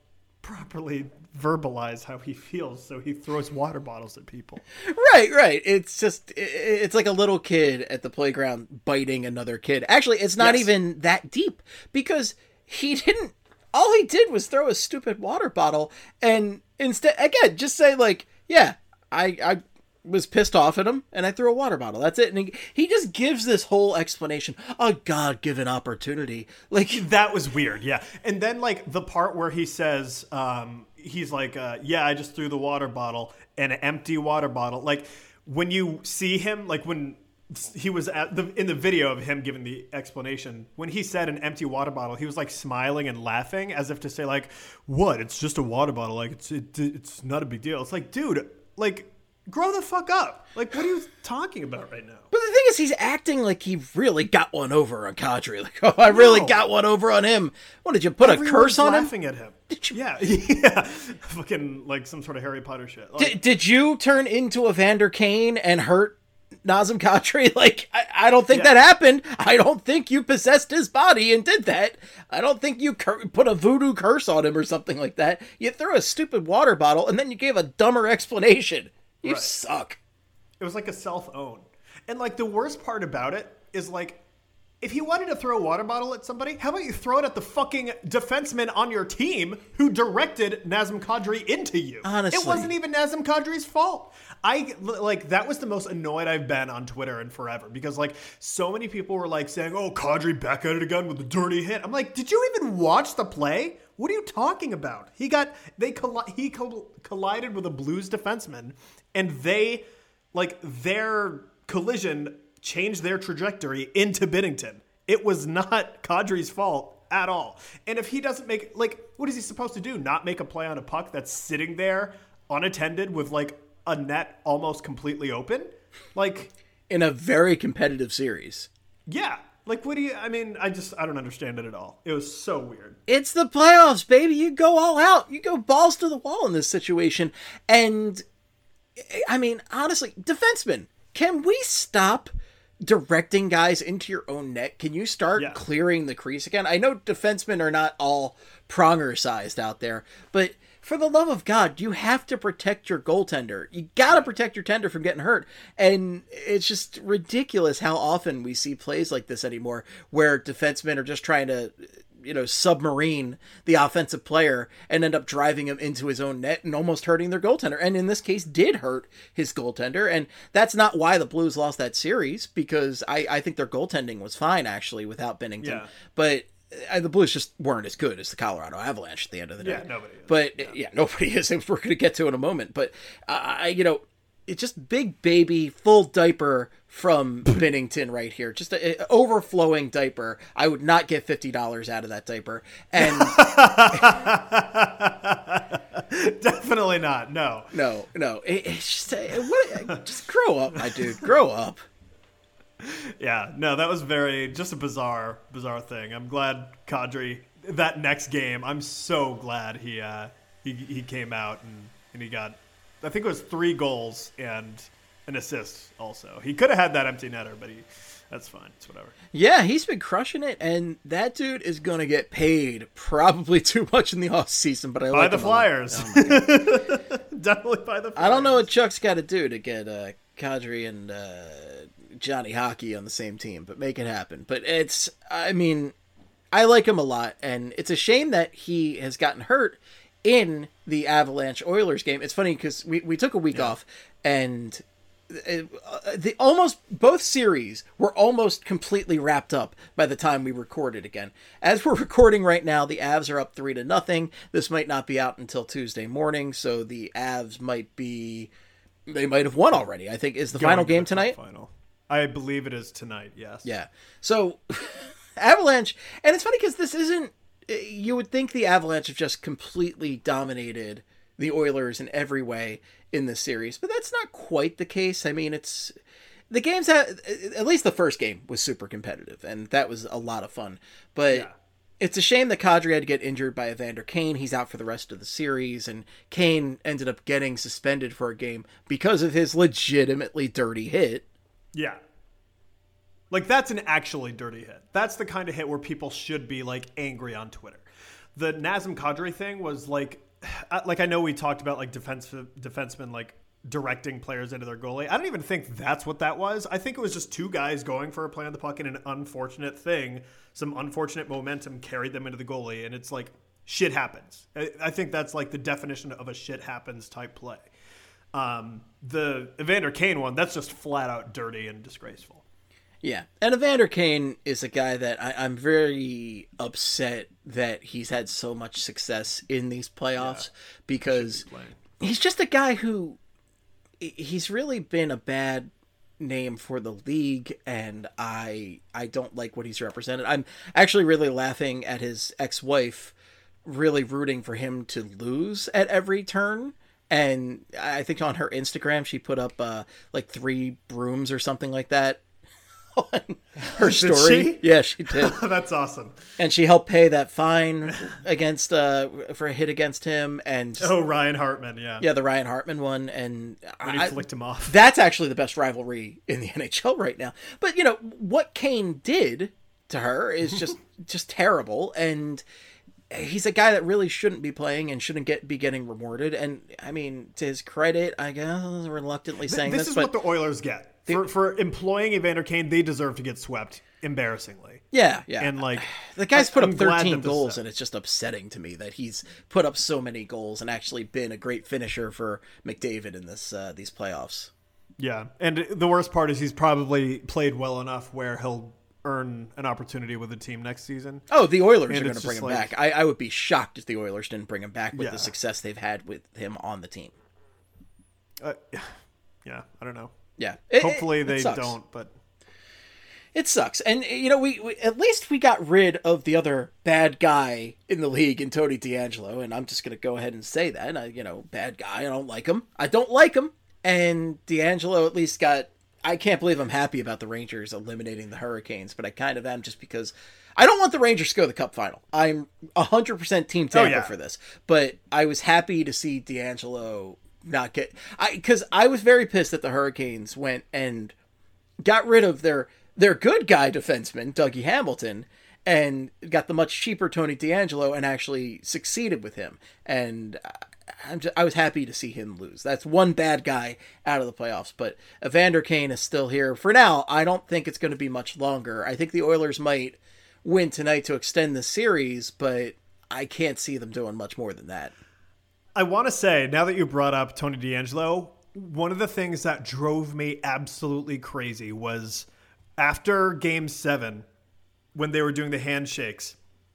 S4: properly verbalize how he feels, so he throws water bottles at people.
S3: Right, right. It's just, it's like a little kid at the playground biting another kid. Actually, it's not
S4: Yes.
S3: even that deep because he didn't, all he did was throw a stupid water bottle and instead, again, just say like, yeah, I, I was pissed off at him and I threw a water bottle. That's it. And he, he just gives this whole explanation, a God-given opportunity. Like,
S4: That was weird, yeah. And then, like, the part where he says, um, he's like, uh, yeah, I just threw the water bottle, an empty water bottle. Like, when you see him, like, when he was at the in the video of him giving the explanation, when he said an empty water bottle, he was, like, smiling and laughing as if to say, like, what? It's just a water bottle. Like, it's it, it's not a big deal. It's like, dude, like, grow the fuck up. Like, what are you talking about right now?
S3: but the thing is, he's acting like he really got one over on Kadri. Like, oh, I really
S4: No.
S3: got one over on him. What, did you put
S4: Everyone's
S3: a curse on him?
S4: laughing at him.
S3: Did you-
S4: Yeah, yeah. Fucking, like, some sort of Harry Potter shit. Like,
S3: Did, did you turn into Evander Kane and hurt Nazem Kadri? Like, I, I don't think
S4: Yeah.
S3: that happened. I don't think you possessed his body and did that. I don't think you cur- put a voodoo curse on him or something like that. You threw a stupid water bottle and then you gave a dumber explanation. You
S4: Right.
S3: suck.
S4: It was like a self-own. And, like, the worst part about it is, like, if you wanted to throw a water bottle at somebody, how about you throw it at the fucking defenseman on your team who directed Nazem Kadri into you?
S3: Honestly.
S4: It wasn't even Nazem Kadri's fault. I, like, that was the most annoyed I've been on Twitter in forever because, like, so many people were, like, saying, oh, Kadri back at it again with a dirty hit. I'm like, did you even watch the play? What are you talking about? He got, they, colli- he coll- collided with a Blues defenseman and they, like, their collision changed their trajectory into Binnington. It was not Kadri's fault at all. And if he doesn't make, like, what is he supposed to do? Not make a play on a puck that's sitting there unattended with, like, a net almost completely open? Like,
S3: In a very competitive series.
S4: yeah. Like, what do you, I mean, I just, I don't understand it at all. It was so weird.
S3: It's the playoffs, baby. You go all out. You go balls to the wall in this situation. And, I mean, honestly, defensemen, can we stop directing guys into your own net? Can you start
S4: Yeah.
S3: clearing the crease again? I know defensemen are not all pronger sized out there, but for the love of God, you have to protect your goaltender. You got to protect your tender from getting hurt. And it's just ridiculous how often we see plays like this anymore where defensemen are just trying to, you know, submarine the offensive player and end up driving him into his own net and almost hurting their goaltender. And in this case did hurt his goaltender. And that's not why the Blues lost that series, because I, I think their goaltending was fine actually without Binnington.
S4: Yeah.
S3: But uh, the Blues just weren't as good as the Colorado Avalanche at the end of the day.
S4: Yeah, nobody is.
S3: But yeah, yeah nobody is. We're going to get to in a moment. But uh, I, you know, it's just big baby, full diaper from Binnington right here. Just an overflowing diaper. I would not get fifty dollars out of that diaper. And
S4: Definitely not. No.
S3: no, no. It, it's just, uh, what, just grow up, my dude. Grow up.
S4: Yeah, no, that was very, just a bizarre, bizarre thing. I'm glad Kadri, that next game, I'm so glad he uh, he, he came out and, and he got, I think it was three goals and an assist also. He could have had that empty netter, but he, that's fine. It's whatever.
S3: Yeah, he's been crushing it, and that dude is going to get paid probably too much in the off season. But I
S4: By
S3: like
S4: the
S3: him a lot.
S4: Flyers.
S3: Oh, my God.
S4: Definitely by the Flyers.
S3: I don't know what Chuck's got to do to get uh, Kadri and uh, Johnny Hockey on the same team, but make it happen. But it's, I mean, I like him a lot, and it's a shame that he has gotten hurt in the Avalanche Oilers game. It's funny because we, we took a week off, and uh, the almost both series were almost completely wrapped up by the time we recorded again. As we're recording right now, the Avs are up three to nothing. This might not be out until Tuesday morning, so the Avs might be, they might have won already. I think is the
S4: Going
S3: final
S4: to
S3: game
S4: the
S3: tonight.
S4: Final. I believe it is tonight. Yes.
S3: Yeah. So Avalanche, and it's funny because this isn't, you would think the Avalanche have just completely dominated the Oilers in every way in this series, but that's not quite the case. I mean, it's, the games, have, at least the first game was super competitive, and that was a lot of fun. But
S4: Yeah.
S3: it's a shame that Kadri had to get injured by Evander Kane. He's out for the rest of the series, and Kane ended up getting suspended for a game because of his legitimately dirty hit.
S4: Yeah. Like, that's an actually dirty hit. That's the kind of hit where people should be, like, angry on Twitter. The Nazem Kadri thing was, like, like I know we talked about like defense defensemen like directing players into their goalie. I don't even think that's what that was. I think it was just two guys going for a play on the puck, and an unfortunate thing, some unfortunate momentum carried them into the goalie, and it's like shit happens. I, I think that's like the definition of a shit happens type play. Um, the Evander Kane one, that's just flat out dirty and disgraceful.
S3: Yeah, and Evander Kane is a guy that I, I'm very upset that he's had so much success in these playoffs yeah, because be he's just a guy who he's really been a bad name for the league, and I I don't like what he's represented. I'm actually really laughing at his ex-wife, really rooting for him to lose at every turn. And I think on her Instagram she put up uh, like three brooms or something like that on her story.
S4: Did she?
S3: Yeah, she did.
S4: That's awesome.
S3: And she helped pay that fine against uh for a hit against him. And just,
S4: oh, Ryan Hartman, yeah,
S3: yeah, the Ryan Hartman one, and
S4: when he
S3: I,
S4: flicked him off.
S3: That's actually the best rivalry in the N H L right now. But you know what Kane did to her is just just terrible, and he's a guy that really shouldn't be playing and shouldn't get be getting rewarded. And I mean, to his credit, I guess reluctantly saying
S4: this,
S3: this,
S4: this is
S3: but
S4: what the Oilers get. For, for employing Evander Kane, they deserve to get swept embarrassingly.
S3: Yeah, yeah.
S4: And like
S3: the guy's put
S4: I'm
S3: up thirteen
S4: glad
S3: goals, and it's just upsetting to me that he's put up so many goals and actually been a great finisher for McDavid in this uh, these playoffs.
S4: Yeah, and the worst part is he's probably played well enough where he'll earn an opportunity with the team next season.
S3: Oh, the Oilers
S4: and
S3: are going to bring him
S4: like,
S3: back. I, I would be shocked if the Oilers didn't bring him back with
S4: yeah.
S3: the success they've had with him on the team.
S4: Uh, yeah, I don't know.
S3: Yeah. It,
S4: Hopefully
S3: it,
S4: they
S3: it
S4: don't, but
S3: it sucks. And you know, we, we at least we got rid of the other bad guy in the league in Tony DeAngelo, and I'm just going to go ahead and say that. I, you know, bad guy. I don't like him. I don't like him. And DeAngelo at least got. I can't believe I'm happy about the Rangers eliminating the Hurricanes, but I kind of am just because I don't want the Rangers to go to the Cup final. I'm one hundred percent Team Tampa
S4: oh, yeah.
S3: for this, but I was happy to see DeAngelo not get I because I was very pissed that the Hurricanes went and got rid of their their good guy defenseman Dougie Hamilton and got the much cheaper Tony DeAngelo and actually succeeded with him. And I'm just, I was happy to see him lose. That's one bad guy out of the playoffs, but Evander Kane is still here for now. I don't think it's going to be much longer. I think the Oilers might win tonight to extend the series, but I can't see them doing much more than that.
S4: I want to say, now that you brought up Tony DeAngelo, one of the things that drove me absolutely crazy was after Game seven, when they were doing the handshakes,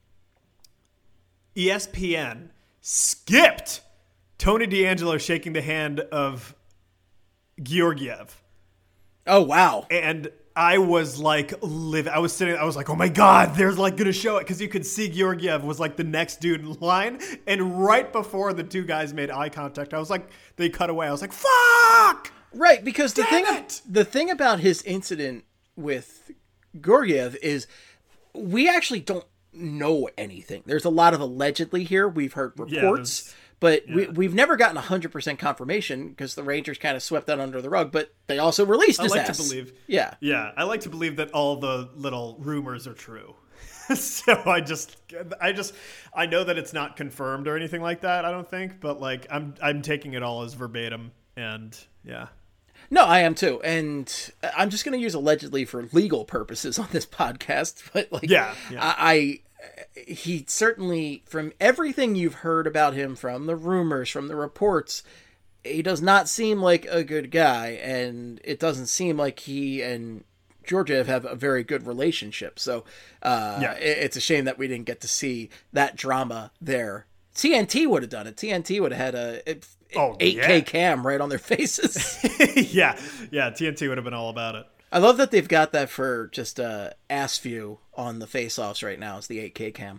S4: E S P N skipped Tony DeAngelo shaking the hand of Georgiev.
S3: Oh, wow.
S4: And I was like, live. I was sitting, I was like, oh my God, they're like going to show it. Because you could see Georgiev was like the next dude in line. And right before the two guys made eye contact, I was like, they cut away. I was like, fuck!
S3: Right, because the
S4: Damn
S3: thing,
S4: it!
S3: the thing about his incident with Georgiev is we actually don't know anything. There's a lot of allegedly here. We've heard reports.
S4: Yeah,
S3: But
S4: yeah.
S3: we, we've never gotten one hundred percent confirmation because the Rangers kind of swept that under the rug, but they also released his
S4: I like
S3: ass.
S4: to believe.
S3: Yeah.
S4: Yeah, I like to believe that all the little rumors are true. So I just, I just, I know that it's not confirmed or anything like that, I don't think, but like I'm, I'm taking it all as verbatim, and yeah.
S3: No, I am too. And I'm just going to use allegedly for legal purposes on this podcast, but like,
S4: Yeah, yeah.
S3: I, I he certainly, from everything you've heard about him, from the rumors, from the reports, he does not seem like a good guy, and it doesn't seem like he and Georgiev have a very good relationship. So uh,
S4: Yeah.
S3: it, it's a shame that we didn't get to see that drama there. T N T would have done it. T N T would have had a
S4: Oh,
S3: eight K
S4: yeah.
S3: cam right on their faces.
S4: yeah, yeah, T N T would have been all about it.
S3: I love that they've got that for just uh, ass view on the face-offs right now. It's the eight K cam.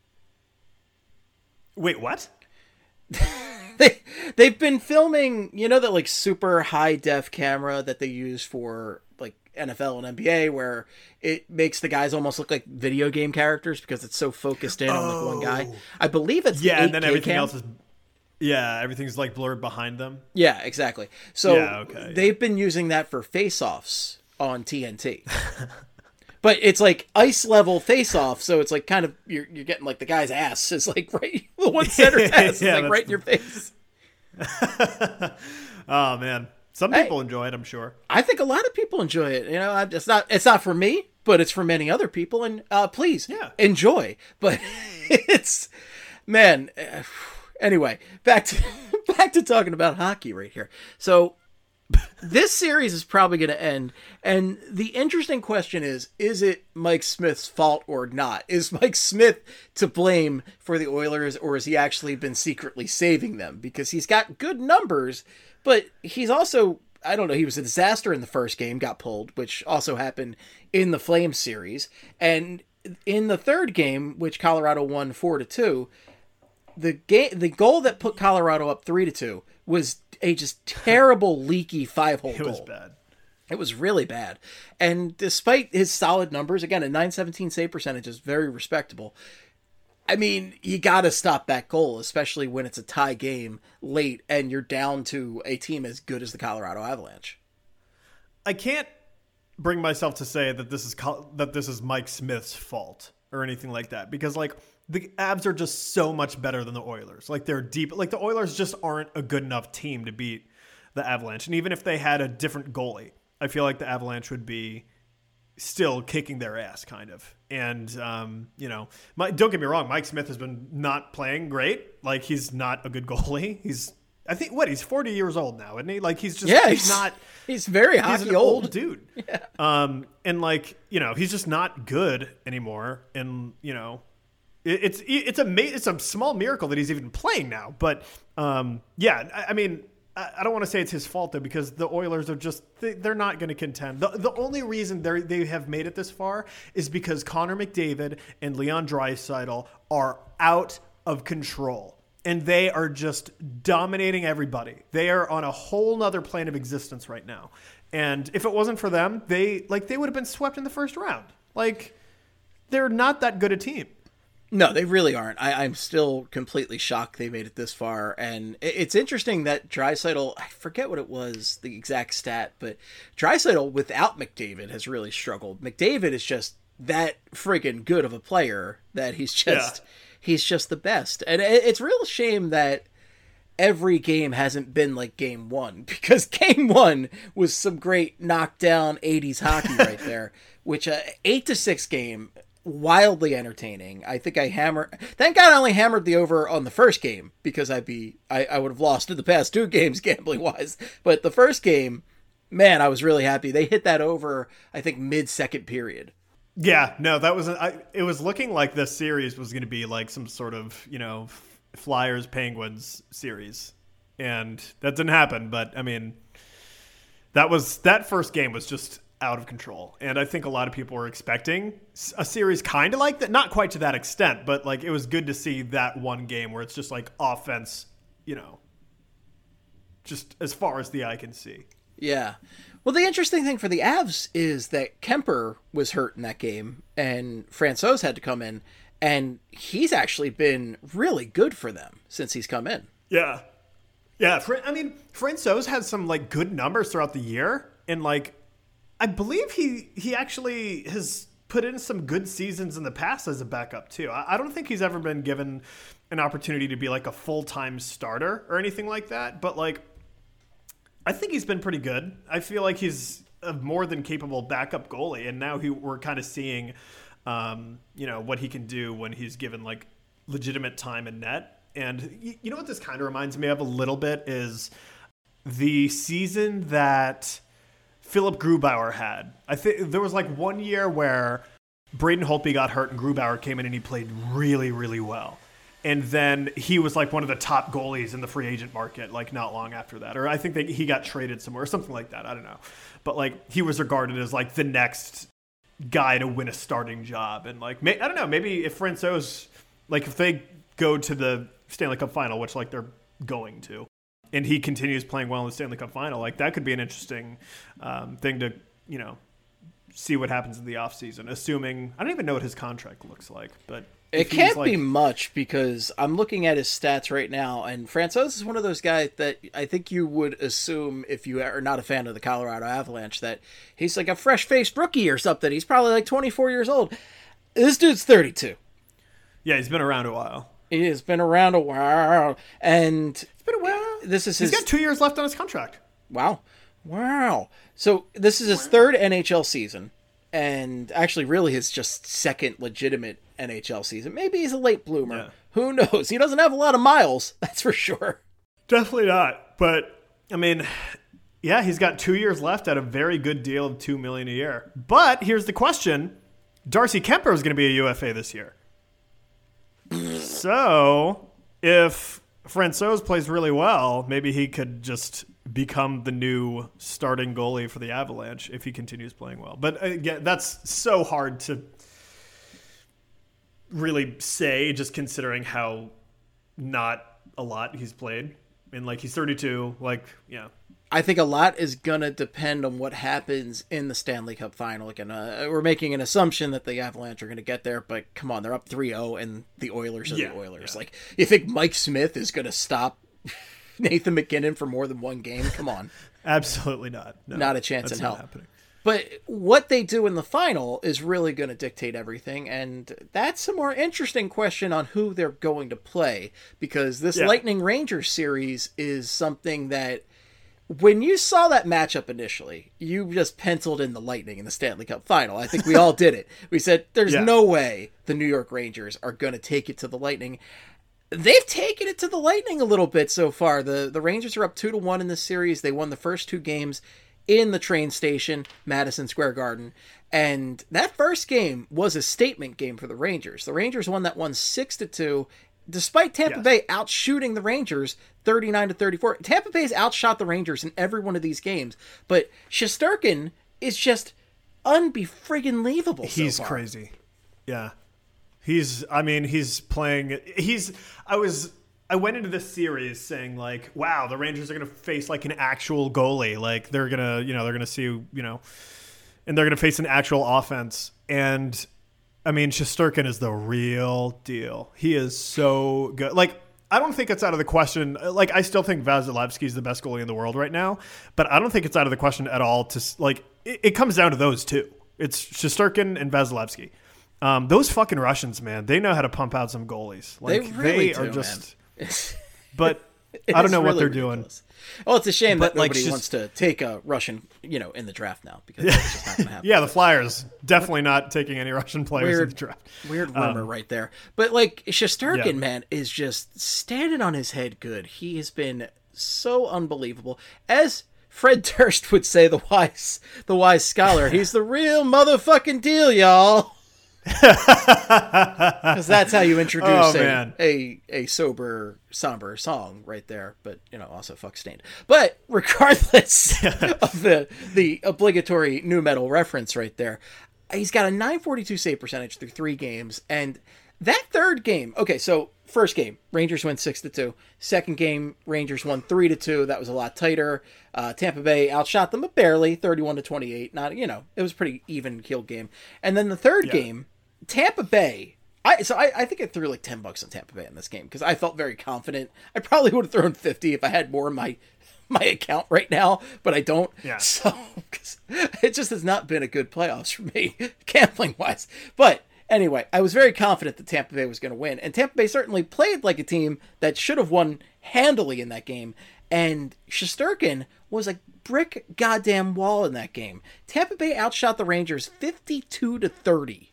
S4: Wait, what?
S3: They, they've been filming, you know, that like super high def camera that they use for like N F L and N B A where it makes the guys almost look like video game characters because it's so focused in on like one guy. I believe it's
S4: Yeah,
S3: the
S4: and then
S3: eight K
S4: everything
S3: cam.
S4: else is, yeah, everything's like blurred behind them.
S3: Yeah, exactly. So
S4: Yeah, okay,
S3: they've been using that for face-offs on T N T. But it's like ice level face off, so it's like kind of you're you're getting like the guy's ass is like right the one center's ass
S4: Yeah,
S3: is like right in your face.
S4: Oh man, some
S3: Hey.
S4: people enjoy it, I'm sure.
S3: I think a lot of people enjoy it. You know, I- it's not it's not for me, but it's for many other people. And uh, please
S4: Yeah.
S3: enjoy. But it's man. uh, Anyway, back to back to talking about hockey right here. So this series is probably going to end, and the interesting question is: is it Mike Smith's fault or not? Is Mike Smith to blame for the Oilers, or has he actually been secretly saving them? Because he's got good numbers, but he's also, I don't know, he was a disaster in the first game, got pulled, which also happened in the Flames series. And in the third game, which Colorado won four to two, the game, the goal that put Colorado up three to two was a just terrible, leaky five-hole
S4: It
S3: goal.
S4: was bad.
S3: It was really bad. And despite his solid numbers, again, a nine seventeen save percentage is very respectable. I mean, you got to stop that goal, especially when it's a tie game late and you're down to a team as good as the Colorado Avalanche.
S4: I can't bring myself to say that this is Col- that this is Mike Smith's fault or anything like that, because like the Avs are just so much better than the Oilers. Like they're deep. Like the Oilers just aren't a good enough team to beat the Avalanche. And even if they had a different goalie, I feel like the Avalanche would be still kicking their ass, kind of. And, um, you know, my, don't get me wrong, Mike Smith has been not playing great. Like, he's not a good goalie. He's, I think, what, he's forty years old now, isn't he? Like, he's just,
S3: Yeah,
S4: he's,
S3: he's-
S4: not,
S3: He's very
S4: he's
S3: hockey
S4: an
S3: old.
S4: old dude. Yeah. Um, and, like, you know, he's just not good anymore. And, you know, it, it's, it's a, ma- it's a small miracle that he's even playing now. But, um, yeah, I, I mean, I don't want to say it's his fault, though, because the Oilers are just, they, they're not going to contend. The, the only reason they they have made it this far is because Connor McDavid and Leon Draisaitl are out of control. And they are just dominating everybody. They are on a whole nother plane of existence right now. And if it wasn't for them, they like they would have been swept in the first round. Like, they're not that good a team.
S3: No, they really aren't. I, I'm still completely shocked they made it this far. And it, it's interesting that Draisaitl, I forget what it was, the exact stat, but Draisaitl without McDavid has really struggled. McDavid is just that friggin' good of a player that he's just,
S4: Yeah.
S3: he's just the best. And it, it's a real shame that every game hasn't been like game one, because game one was some great knockdown eighties hockey right there, which uh, eight to six game, wildly entertaining. I think I hammered, thank God I only hammered the over on the first game, because I'd be, I, I would have lost in the past two games gambling wise. But the first game, man, I was really happy. They hit that over, I think mid second period.
S4: Yeah, no, that was, I, it was looking like this series was going to be like some sort of, you know, Flyers Penguins series, and that didn't happen. But I mean, that was, that first game was just out of control. And I think a lot of people were expecting a series kind of like that, not quite to that extent, but like it was good to see that one game where it's just like offense, you know, just as far as the eye can see.
S3: Yeah. Well, the interesting thing for the Avs is that Kemper was hurt in that game, and Francouz had to come in, and he's actually been really good for them since he's come in.
S4: Yeah. Yeah. Fran- I mean, Francouz has some like good numbers throughout the year, and like, I believe he, he actually has put in some good seasons in the past as a backup too. I, I don't think he's ever been given an opportunity to be like a full-time starter or anything like that. But like, I think he's been pretty good. I feel like he's a more than capable backup goalie. And now he, we're kind of seeing, um, you know, what he can do when he's given like legitimate time in net. And you, you know what this kind of reminds me of a little bit is the season that Philip Grubauer had. I think there was like one year where Braden Holtby got hurt and Grubauer came in and he played really, really well. And then he was like one of the top goalies in the free agent market, like not long after that. Or I think that he got traded somewhere or something like that. I don't know. But like he was regarded as like the next guy to win a starting job. And like, may, I don't know, maybe if Francouz, like if they go to the Stanley Cup final, which like they're going to, and he continues playing well in the Stanley Cup final, like that could be an interesting um, thing to, you know, see what happens in the offseason, assuming I don't even know what his contract looks like, but
S3: it
S4: if he's,
S3: can't
S4: like-
S3: be much because I'm looking at his stats right now, and Francouz is one of those guys that I think you would assume if you are not a fan of the Colorado Avalanche that he's like a fresh-faced rookie or something. He's probably like twenty-four years old. This dude's thirty-two.
S4: Yeah, he's been around a while.
S3: He has been around a while, and
S4: It's been a while.
S3: this is
S4: He's
S3: his
S4: got two years left on his contract.
S3: wow, wow. So this is his third N H L season, and actually, really, his just second legitimate N H L season. Maybe he's a late bloomer.
S4: Yeah.
S3: Who knows? He doesn't have a lot of miles, that's for sure.
S4: Definitely not. But I mean, yeah, he's got two years left at a very good deal of two million a year. But here's the question: Darcy Kemper is going to be a U F A this year. So if Francouz plays really well, maybe he could just become the new starting goalie for the Avalanche if he continues playing well. But again, that's so hard to really say, just considering how not a lot he's played. And like he's thirty-two, like, yeah.
S3: I think a lot is going to depend on what happens in the Stanley Cup final. Again, uh, we're making an assumption that the Avalanche are going to get there, but come on, they're up three oh and the Oilers are
S4: Yeah,
S3: the Oilers.
S4: yeah.
S3: Like, you think Mike Smith is going to stop Nathan McKinnon for more than one game? Come on.
S4: Absolutely not. No,
S3: Not a chance
S4: that's
S3: in
S4: not
S3: hell.
S4: happening.
S3: But what they do in the final is really going to dictate everything, and that's a more interesting question on who they're going to play, because this
S4: Yeah.
S3: Lightning Rangers series is something that, when you saw that matchup initially, you just penciled in the Lightning in the Stanley Cup final. I think we all did it. We said, there's
S4: Yeah.
S3: no way the New York Rangers are going to take it to the Lightning. They've taken it to the Lightning a little bit so far. The the Rangers are up two to one in this series. They won the first two games in the train station, Madison Square Garden. And that first game was a statement game for the Rangers. The Rangers won that one six to two, despite Tampa
S4: Yes.
S3: Bay outshooting the Rangers thirty-nine to thirty-four. Tampa Bay's outshot the Rangers in every one of these games, but Shesterkin is just unbefriggin-leavable so
S4: He's
S3: far.
S4: crazy. Yeah. He's, I mean, he's playing, he's, I was, I went into this series saying like, wow, the Rangers are going to face like an actual goalie. Like they're going to, you know, they're going to see, you know, and they're going to face an actual offense. And I mean, Shesterkin is the real deal. He is so good. Like, I don't think it's out of the question. Like, I still think Vasilevsky is the best goalie in the world right now, but I don't think it's out of the question at all to like, it, it comes down to those two. It's Shesterkin and Vasilevsky. Um, those fucking Russians, man, they know how to pump out some goalies. Like
S3: They really
S4: are
S3: do,
S4: just,
S3: man.
S4: but
S3: It
S4: I don't
S3: is
S4: know what
S3: really
S4: they're doing.
S3: ridiculous. Well, it's a shame
S4: But,
S3: that
S4: like,
S3: nobody
S4: just-
S3: wants to take a Russian, you know, in the draft now, because it's just not going to happen.
S4: Yeah, the Flyers definitely not taking any Russian players in
S3: Weird,
S4: the draft.
S3: weird rumor right there. But like Shesterkin,
S4: Yeah.
S3: man, is just standing on his head good. He has been so unbelievable. As Fred Durst would say, the wise, the wise scholar, he's the real motherfucking deal, y'all. Because that's how you introduce
S4: Oh,
S3: a,
S4: man.
S3: a a sober, somber song right there. But, you know, also fuck Stained. But regardless of the the obligatory nu metal reference right there, he's got a nine forty-two save percentage through three games. And that third game, okay, so first game, Rangers win six to two. Second game, Rangers won three to two. That was a lot tighter. Uh, Tampa Bay outshot them, but barely, thirty-one to twenty-eight. Not, you know, it was a pretty even keeled game. And then the third
S4: Yeah.
S3: game, Tampa Bay. I so I, I think I threw like ten bucks on Tampa Bay in this game because I felt very confident. I probably would have thrown fifty if I had more in my my account right now, but I don't.
S4: Yeah.
S3: So 'cause it just has not been a good playoffs for me, gambling wise. But anyway, I was very confident that Tampa Bay was going to win, and Tampa Bay certainly played like a team that should have won handily in that game. And Shesterkin was a brick goddamn wall in that game. Tampa Bay outshot the Rangers fifty-two to thirty.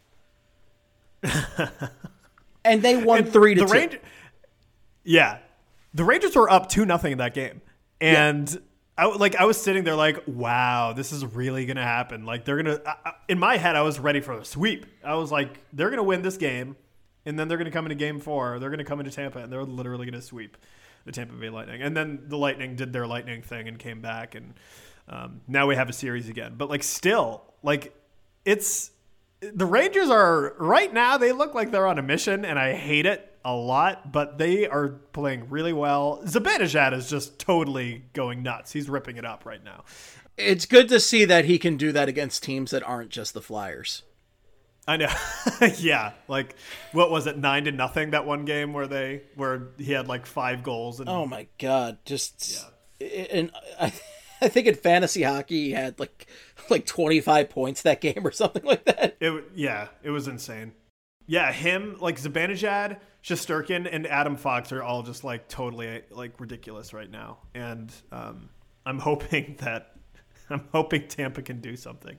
S3: And they won
S4: And
S3: three to
S4: the
S3: two.
S4: Ranger- yeah, the Rangers were up two nothing in that game, and I like I was sitting there like, wow, this is really gonna happen. Like they're gonna. I, I- in my head, I was ready for a sweep. I was like, they're gonna win this game, and then they're gonna come into game four. They're gonna come into Tampa, and they're literally gonna sweep the Tampa Bay Lightning. And then the Lightning did their Lightning thing and came back, and um, now we have a series again. But like, still, like, it's. The Rangers are, right now, they look like they're on a mission, and I hate it a lot, but they are playing really well. Zibanejad is just totally going nuts. He's ripping it up right now.
S3: It's good to see that he can do that against teams that aren't just the Flyers.
S4: I know. Yeah. Like, what was it? Nine to nothing that one game where they, where he had like five goals. And
S3: oh my God. Just, yeah. And I, I think in fantasy hockey, he had like, like twenty-five points that game or something like that.
S4: It, yeah, it was insane. Yeah. Him, like Zibanejad, Shesterkin, and Adam Fox are all just like totally like ridiculous right now. And um, I'm hoping that, I'm hoping Tampa can do something.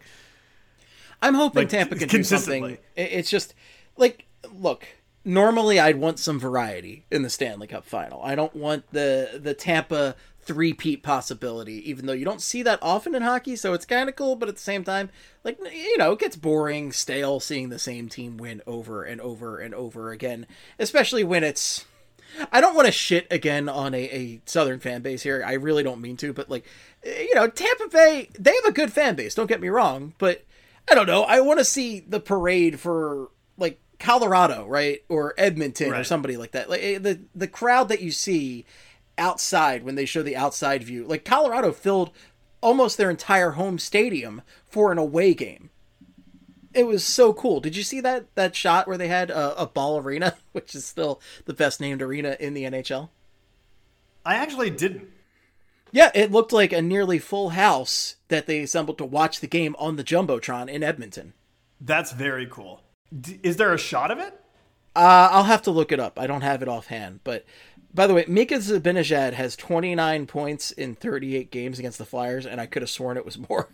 S3: I'm hoping
S4: like,
S3: Tampa can do something. It's just like, look, normally I'd want some variety in the Stanley Cup final. I don't want the the Tampa three-peat possibility, even though you don't see that often in hockey, so it's kind of cool, but at the same time, like, you know, it gets boring, stale, seeing the same team win over and over and over again, especially when it's... I don't want to shit again on a, a Southern fan base here. I really don't mean to, but, like, you know, Tampa Bay, they have a good fan base, don't get me wrong, but... I don't know. I want to see the parade for like Colorado, right? Or Edmonton right. or somebody like that. Like the, the crowd that you see outside when they show the outside view, like Colorado filled almost their entire home stadium for an away game. It was so cool. Did you see that, that shot where they had a, a Ball Arena, which is still the best named arena in the N H L?
S4: I actually didn't.
S3: Yeah, it looked like a nearly full house that they assembled to watch the game on the Jumbotron in Edmonton.
S4: That's very cool. D- is there a shot of it?
S3: Uh, I'll have to look it up. I don't have it offhand. But, by the way, Mika Zibanejad has twenty-nine points in thirty-eight games against the Flyers, and I could have sworn it was more.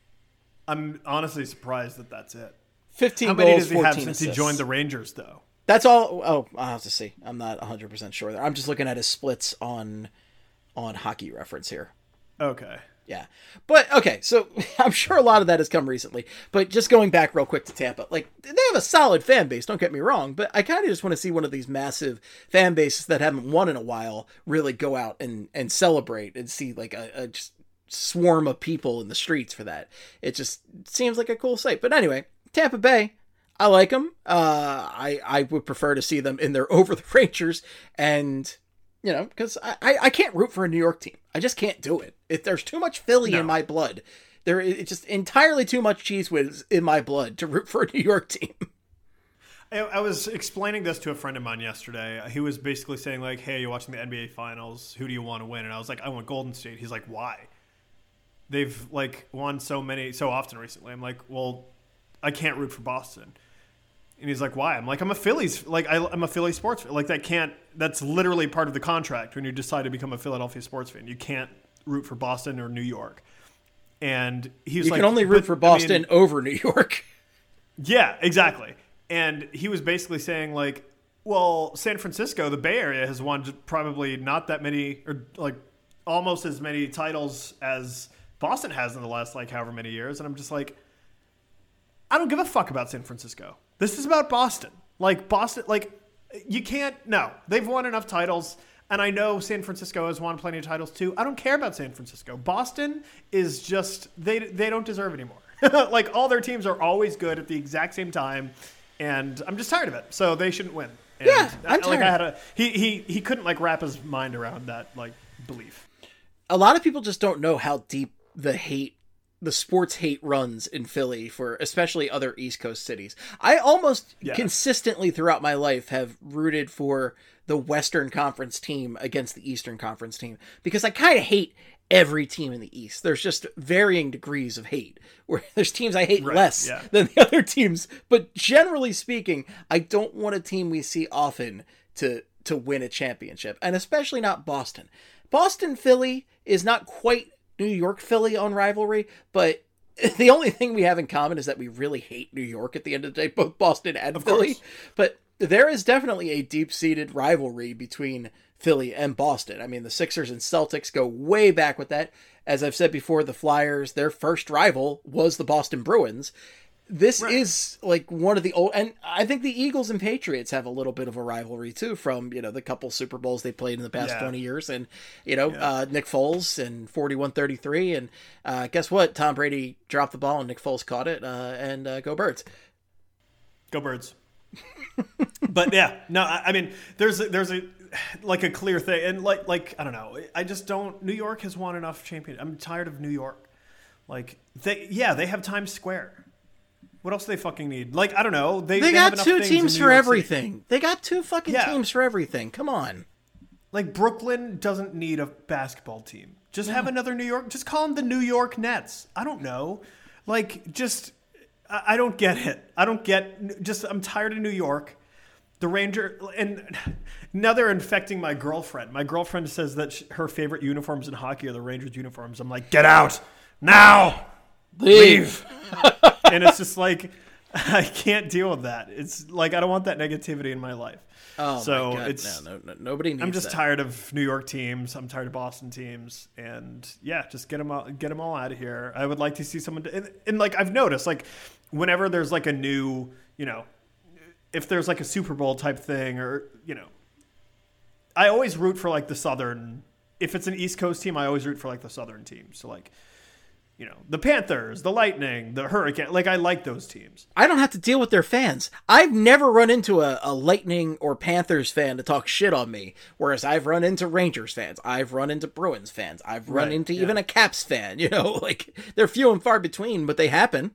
S4: I'm honestly surprised that that's it.
S3: fifteen
S4: How many
S3: goals,
S4: does he have
S3: fourteen
S4: since
S3: assists.
S4: he joined the Rangers, though?
S3: That's all. Oh, I'll have to see. I'm not one hundred percent sure there. I'm just looking at his splits on... on Hockey Reference here.
S4: Okay.
S3: Yeah. But, okay, so I'm sure a lot of that has come recently. But just going back real quick to Tampa, like, they have a solid fan base, don't get me wrong, but I kind of just want to see one of these massive fan bases that haven't won in a while really go out and, and celebrate and see, like, a, a just swarm of people in the streets for that. It just seems like a cool sight. But anyway, Tampa Bay, I like them. Uh, I, I would prefer to see them in their over the Rangers and... You know, because I, I, I can't root for a New York team. I just can't do it. If there's too much Philly no. in my blood, there is just entirely too much Cheese Whiz in my blood to root for a New York team.
S4: I, I was explaining this to a friend of mine yesterday. He was basically saying, like, hey, you're watching the N B A Finals. Who do you want to win? And I was like, I want Golden State. He's like, why? They've, like, won so many, so often recently. I'm like, well, I can't root for Boston. And he's like, why? I'm like, I'm a Phillies, like, I, I'm a Philly sports fan. Like, that can't, that's literally part of the contract when you decide to become a Philadelphia sports fan. You can't root for Boston or New York. And he's
S3: you
S4: like,
S3: you can only root for Boston I mean, over New York.
S4: Yeah, exactly. And he was basically saying, like, well, San Francisco, the Bay Area, has won probably not that many, or like almost as many titles as Boston has in the last, like, however many years. And I'm just like, I don't give a fuck about San Francisco. This is about Boston. Like, Boston, like, you can't, no. They've won enough titles, and I know San Francisco has won plenty of titles too. I don't care about San Francisco. Boston is just, they they don't deserve anymore. Like, all their teams are always good at the exact same time, and I'm just tired of it. So they shouldn't win. And
S3: yeah, I'm
S4: like,
S3: tired.
S4: I had a, he, he, he couldn't, like, wrap his mind around that, like, belief.
S3: A lot of people just don't know how deep the hate the sports hate runs in Philly for especially other East Coast cities. I almost yeah. consistently throughout my life have rooted for the Western Conference team against the Eastern Conference team because I kind of hate every team in the East. There's just varying degrees of hate where there's teams I hate
S4: right.
S3: less
S4: yeah.
S3: than the other teams. But generally speaking, I don't want a team we see often to, to win a championship, and especially not Boston. Boston Philly is not quite New York Philly on rivalry, but the only thing we have in common is that we really hate New York at the end of the day, both Boston and
S4: of
S3: Philly.
S4: Course.
S3: But there is definitely a deep-seated rivalry between Philly and Boston. I mean, the Sixers and Celtics go way back with that. As I've said before, the Flyers, their first rival was the Boston Bruins. This right. is like one of the old, and I think the Eagles and Patriots have a little bit of a rivalry too from, you know, the couple Super Bowls they played in the past yeah. twenty years. And, you know, yeah. uh, Nick Foles and forty-one thirty-three. And uh, guess what? Tom Brady dropped the ball and Nick Foles caught it. Uh, and uh, go Birds.
S4: Go Birds. But yeah, no, I, I mean, there's a, there's a, like a clear thing. And like, like, I don't know. I just don't, New York has won enough champions. I'm tired of New York. Like, they, yeah, they have Times Square. What else do they fucking need? Like, I don't know. They,
S3: They,
S4: they
S3: got
S4: have enough
S3: two
S4: things
S3: teams
S4: in
S3: for
S4: New York
S3: everything.
S4: City.
S3: They got two fucking
S4: Yeah.
S3: teams for everything. Come on.
S4: Like, Brooklyn doesn't need a basketball team. Just have another New York. Just call them the New York Nets. I don't know. Like, just, I, I don't get it. I don't get, just, I'm tired of New York. The Ranger, and now they're infecting my girlfriend. My girlfriend says that she, her favorite uniforms in hockey are the Rangers uniforms. I'm like, get out now. Leave. And it's just like, I can't deal with that. It's like, I don't want that negativity in my life.
S3: Oh,
S4: so
S3: my God.
S4: it's,
S3: no, no, no, nobody needs
S4: I'm just
S3: that.
S4: tired of New York teams. I'm tired of Boston teams. And yeah, just get them all, get them all out of here. I would like to see someone, and, and like, I've noticed, like, whenever there's like a new, you know, if there's like a Super Bowl type thing, or, you know, I always root for like the Southern, if it's an East Coast team, I always root for like the Southern team. So like, you know, the Panthers, the Lightning, the Hurricane, like I like those teams.
S3: I don't have to deal with their fans. I've never run into a, a Lightning or Panthers fan to talk shit on me, whereas I've run into Rangers fans. I've run into Bruins fans. I've run
S4: Right,
S3: into
S4: yeah.
S3: even a Caps fan, you know, like they're few and far between, but they happen.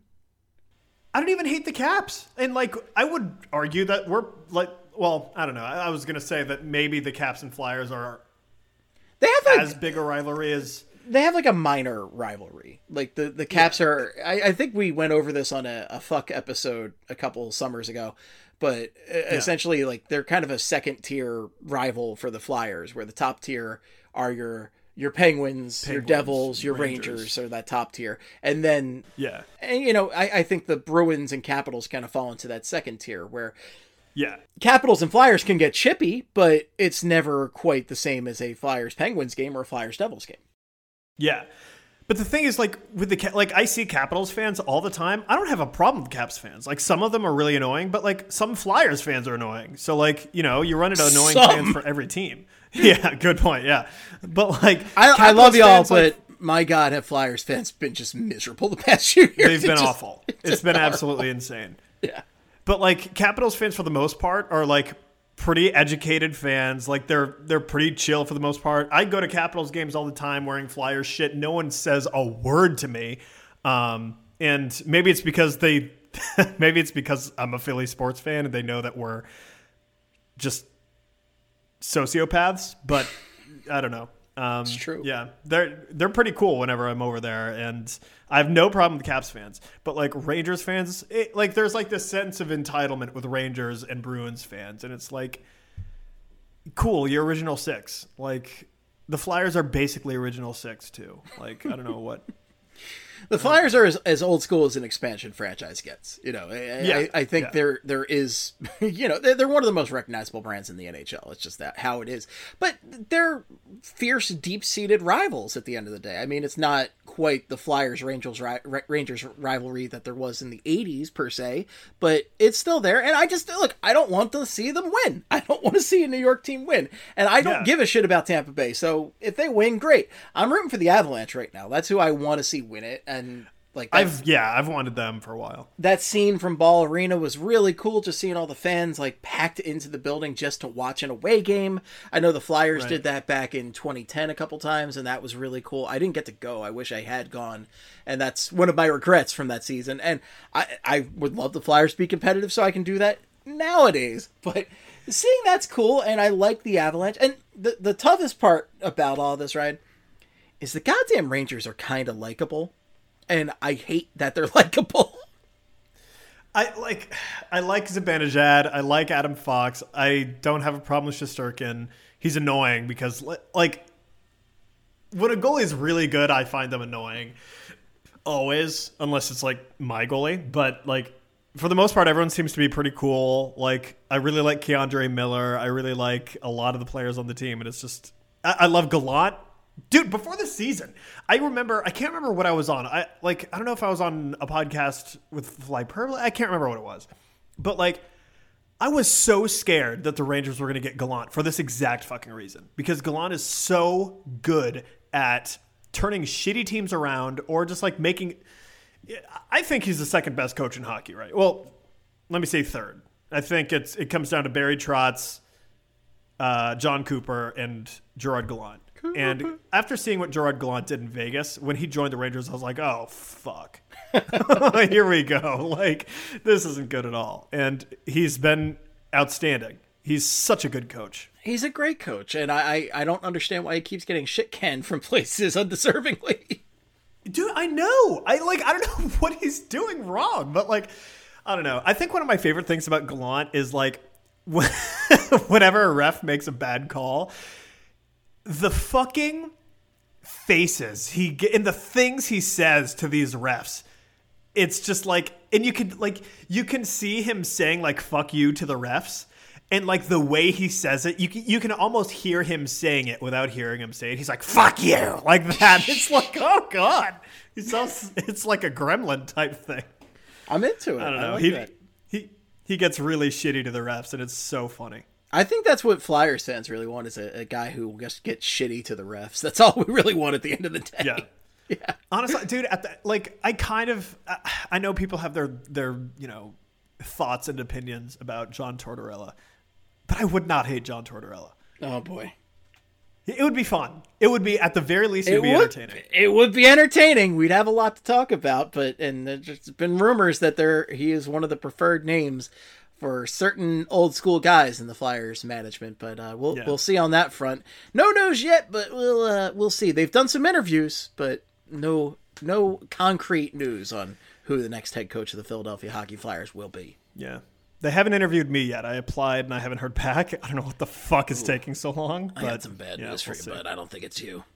S4: I don't even hate the Caps. And like, I would argue that we're like, well, I don't know. I, I was going to say that maybe the Caps and Flyers are
S3: They have like,
S4: as big a rivalry as,
S3: they have like a minor rivalry. Like the, the Caps are, I, I think we went over this on a, a fuck episode a couple summers ago, but essentially like they're kind of a second tier rival for the Flyers, where the top tier are your, your Penguins, your
S4: Penguins,
S3: Devils, your
S4: Rangers.
S3: Rangers are that top tier. And then,
S4: yeah,
S3: and you know, I, I think the Bruins and Capitals kind of fall into that second tier, where
S4: yeah.
S3: Capitals and Flyers can get chippy, but it's never quite the same as a Flyers Penguins game or a Flyers Devils game.
S4: Yeah. But the thing is, like, with the, Ca- like, I see Capitals fans all the time. I don't have a problem with Caps fans. Like, some of them are really annoying, but, like, some Flyers fans are annoying. So, like, you know, you run into annoying
S3: Some.
S4: fans for every team. Yeah, good point. Yeah. But, like,
S3: I, I
S4: Capitals
S3: love y'all,
S4: fans,
S3: but
S4: like,
S3: my God, have Flyers fans been just miserable the past few years?
S4: they've
S3: It's
S4: been
S3: just-
S4: awful. It's
S3: just
S4: been
S3: horrible.
S4: absolutely insane.
S3: Yeah.
S4: But, like, Capitals fans, for the most part, are, like, pretty educated fans. Like, they're they're pretty chill for the most part. I go to Capitals games all the time wearing Flyers shit. No one says a word to me. Um, and maybe it's because they, maybe it's because I'm a Philly sports fan and they know that we're just sociopaths. But I don't know. Um,
S3: It's true.
S4: Yeah, they're they're pretty cool whenever I'm over there, and I have no problem with Caps fans. But like Rangers fans, it, like there's like this sense of entitlement with Rangers and Bruins fans, and it's like, cool, you're original six. Like the Flyers are basically original six too. Like I don't know what.
S3: The Flyers are as, as old school as an expansion franchise gets. You know, I,
S4: Yeah,
S3: I, I think
S4: yeah.
S3: there there is, you know, they're, they're one of the most recognizable brands in the N H L. It's just that how it is. But they're fierce, deep-seated rivals at the end of the day. I mean, it's not quite the Flyers Rangers ri- Rangers rivalry that there was in the eighties per se, but it's still there. And I just look, I don't want to see them win. I don't want to see a New York team win, and I don't
S4: Yeah.
S3: give a shit about Tampa Bay. So if they win, great. I'm rooting for the Avalanche right now. That's who I want to see win it. And like that,
S4: I've yeah, I've wanted them for a while.
S3: that scene from Ball Arena was really cool. Just seeing all the fans like packed into the building just to watch an away game. I know the Flyers
S4: Right.
S3: did that back in twenty ten a couple times, and that was really cool. I didn't get to go. I wish I had gone, and that's one of my regrets from that season. And I I would love the Flyers to be competitive, so I can do that nowadays. But seeing that's cool, and I like the Avalanche. And the the toughest part about all this, right, is the goddamn Rangers are kind of likable. And I hate that they're likable.
S4: I like I like Zibanejad. I like Adam Fox. I don't have a problem with Shesterkin. He's annoying because like when a goalie is really good, I find them annoying. Always, unless it's like my goalie. But like for the most part, everyone seems to be pretty cool. Like I really like Keandre Miller. I really like a lot of the players on the team, and it's just I, I love Gallant. Dude, before the season, I remember, I can't remember what I was on. I like, I don't know if I was on a podcast with Fly Purple. I can't remember what it was. But like, I was so scared that the Rangers were going to get Gallant for this exact fucking reason. Because Gallant is so good at turning shitty teams around or just like making, I think he's the second best coach in hockey, right? Well, let me say third. I think it's it comes down to Barry Trotz, uh, John Cooper, and Gerard Gallant. And after seeing what Gerard Gallant did in Vegas, when he joined the Rangers, I was like, oh, fuck. Here we go. Like, this isn't good at all. And he's been outstanding. He's such a good coach.
S3: He's a great coach, and I, I, I don't understand why he keeps getting shit canned from places undeservingly.
S4: Dude, I know. I like. I don't know what he's doing wrong, but like, I don't know. I think one of my favorite things about Gallant is like, whenever a ref makes a bad call, the fucking faces he get and the things he says to these refs. It's just like, and you can like, you can see him saying like "fuck you" to the refs. And, like, the way he says it, you can, you can almost hear him saying it without hearing him say it. He's like, fuck you, like that. It's like, oh, God. He sounds, it's like a gremlin type thing.
S3: I'm into it.
S4: I don't know.
S3: I like
S4: he,
S3: that.
S4: he he gets really shitty to the refs, and it's so funny.
S3: I think that's what Flyers fans really want, is a, a guy who just gets shitty to the refs. That's all we really want at the end of the day.
S4: Yeah.
S3: Yeah.
S4: Honestly, dude, at the, like, I kind of, I know people have their, their, you know, thoughts and opinions about John Tortorella. But I would not hate John Tortorella.
S3: Oh, boy.
S4: It would be fun. It would be, at the very least, it would be
S3: would,
S4: entertaining.
S3: It would be entertaining. We'd have a lot to talk about, but and there's been rumors that there he is one of the preferred names for certain old school guys in the Flyers management. But uh, we'll
S4: Yeah.
S3: we'll see on that front. No news yet, but we'll uh, we'll see. They've done some interviews, but no no concrete news on who the next head coach of the Philadelphia Hockey Flyers will be.
S4: Yeah. They haven't interviewed me yet. I applied and I haven't heard back. I don't know what the fuck is Ooh. taking so long.
S3: I
S4: but,
S3: got some bad
S4: yeah,
S3: news for
S4: we'll
S3: you,
S4: see.
S3: but I don't think it's you.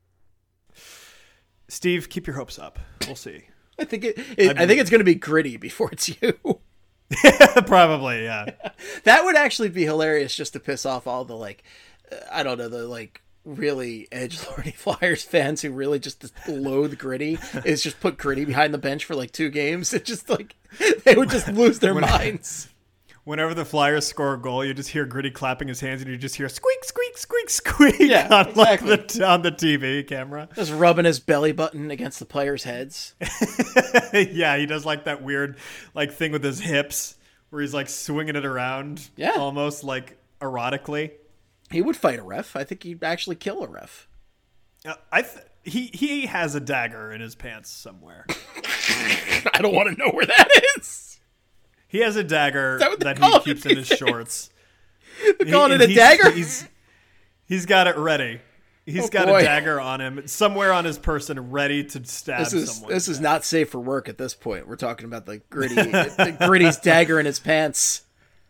S4: Steve, keep your hopes up. We'll see.
S3: I think it. it I, I think it's going to be Gritty before it's you.
S4: Probably, yeah.
S3: That would actually be hilarious, just to piss off all the like, uh, I don't know, the like really edgelordy Flyers fans who really just loathe Gritty. Is just put Gritty behind the bench for like two games. It just like they would just lose their minds.
S4: Whenever the Flyers score a goal, you just hear Gritty clapping his hands, and you just hear squeak, squeak, squeak, squeak
S3: yeah,
S4: on,
S3: exactly.
S4: like, the, on the T V camera.
S3: Just rubbing his belly button against the players' heads.
S4: Yeah, he does like that weird like thing with his hips where he's like swinging it around,
S3: yeah,
S4: almost like erotically.
S3: He would fight a ref. I think he'd actually kill a ref.
S4: Uh, I th- he he has a dagger in his pants somewhere.
S3: I don't want to know where that is.
S4: He has a dagger
S3: that,
S4: that he keeps in his days? shorts.
S3: They're calling
S4: he,
S3: it a dagger?
S4: He's, he's got it ready. He's
S3: oh,
S4: got
S3: boy.
S4: a dagger on him, somewhere on his person, ready to stab
S3: this is,
S4: someone.
S3: This is not safe for work at this point. We're talking about the Gritty, the Gritty's dagger in his pants.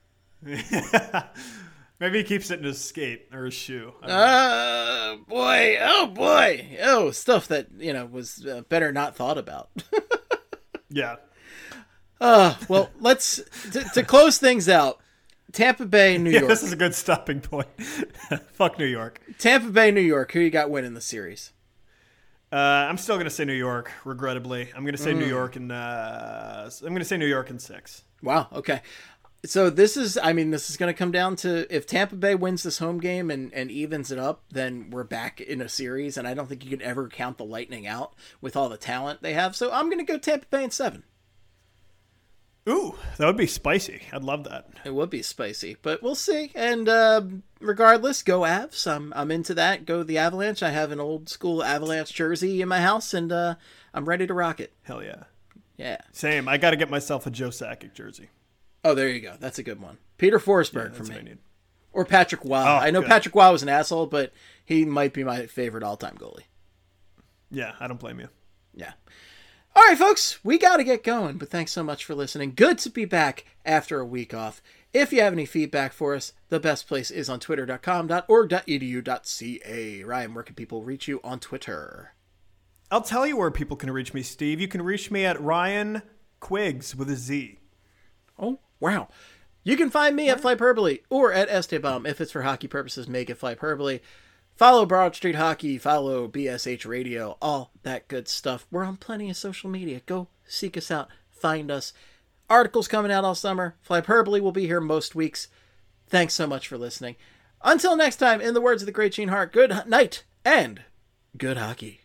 S4: Maybe he keeps it in his skate or his shoe.
S3: Oh, uh, boy. Oh, boy. Oh, stuff that, you know, was uh, better not thought about.
S4: Yeah.
S3: Uh, well, let's, to, to close things out, Tampa Bay, New
S4: Yeah,
S3: York.
S4: this is a good stopping point. Fuck New York.
S3: Tampa Bay, New York. Who you got winning the series?
S4: Uh, I'm still going to say New York, regrettably. I'm going to say
S3: Mm.
S4: New York in, uh, I'm going to say New York in six.
S3: Wow. Okay. So this is, I mean, this is going to come down to if Tampa Bay wins this home game and, and evens it up, then we're back in a series. And I don't think you could ever count the Lightning out with all the talent they have. So I'm going to go Tampa Bay in seven.
S4: Ooh, that would be spicy. I'd love that.
S3: It would be spicy, but we'll see. And uh, regardless, go Avs. I'm I'm into that. Go the Avalanche. I have an old school Avalanche jersey in my house, and uh, I'm ready to rock it.
S4: Hell yeah.
S3: Yeah.
S4: Same. I got to get myself a Joe Sakic jersey.
S3: Oh, there you go. That's a good one. Peter Forsberg
S4: Yeah,
S3: for
S4: that's
S3: me.
S4: what I need.
S3: Or Patrick Waugh.
S4: Oh,
S3: I know
S4: good.
S3: Patrick Waugh was an asshole, but he might be my favorite all-time goalie.
S4: Yeah, I don't blame you.
S3: Yeah. All right, folks, we got to get going, but thanks so much for listening. Good to be back after a week off. If you have any feedback for us, the best place is on twitter dot com dot org dot e d u dot c a. Ryan, where can people reach you on Twitter?
S4: I'll tell you where people can reach me, Steve. You can reach me at Ryan Quiggs with a Z.
S3: Oh, wow. You can find me at Flyperbole or at Estebaum. If it's for hockey purposes, make it Flyperbole. Follow Broad Street Hockey, follow B S H Radio, all that good stuff. We're on plenty of social media. Go seek us out, find us. Articles coming out all summer. Flyperbole will be here most weeks. Thanks so much for listening. Until next time, in the words of the great Gene Hart, good night and good hockey.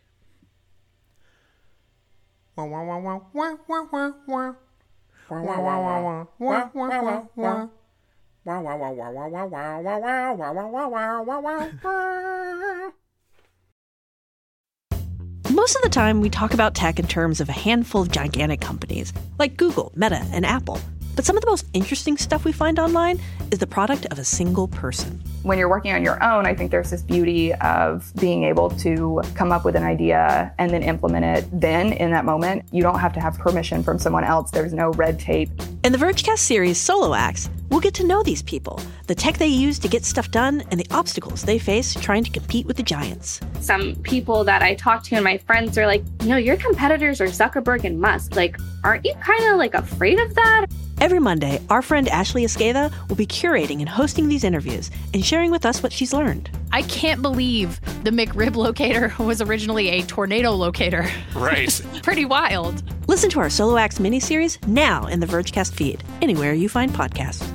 S4: Wow, wow, wow, wow, wow, wow, wow, wow. Wow, wow, wow, wow, wow, wow, wow.
S3: Wow, wow, wow, wow, wow, wow, wow, wow, wow, wow, wow, wow, wow, wow, wow.
S7: Most of the time, we talk about tech in terms of a handful of gigantic companies, like Google, Meta, and Apple. But some of the most interesting stuff we find online is the product of a single person.
S8: When you're working on your own, I think there's this beauty of being able to come up with an idea and then implement it then in that moment. You don't have to have permission from someone else. There's no red tape.
S7: In the Vergecast series Solo Acts, we'll get to know these people, the tech they use to get stuff done, and the obstacles they face trying to compete with the giants.
S9: Some people that I talk to and my friends are like, you know, your competitors are Zuckerberg and Musk. Like, aren't you kind of like afraid of that?
S7: Every Monday, our friend Ashley Esqueda will be curating and hosting these interviews and sharing with us what she's learned.
S10: I can't believe the McRib locator was originally a tornado locator.
S11: Right.
S10: Pretty wild.
S7: Listen to our Solo Acts miniseries now in the Vergecast feed, anywhere you find podcasts.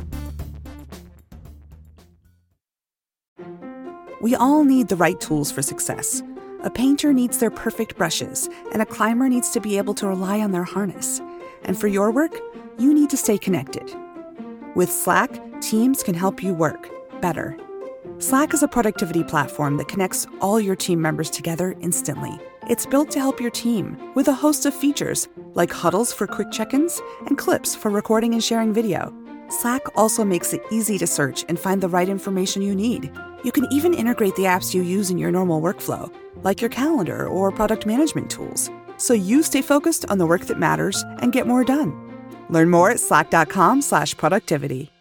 S12: We all need the right tools for success. A painter needs their perfect brushes, and a climber needs to be able to rely on their harness. And for your work, you need to stay connected. With Slack, teams can help you work better. Slack is a productivity platform that connects all your team members together instantly. It's built to help your team with a host of features, like huddles for quick check-ins and clips for recording and sharing video. Slack also makes it easy to search and find the right information you need. You can even integrate the apps you use in your normal workflow, like your calendar or product management tools, so you stay focused on the work that matters and get more done. Learn more at slack.com slash productivity.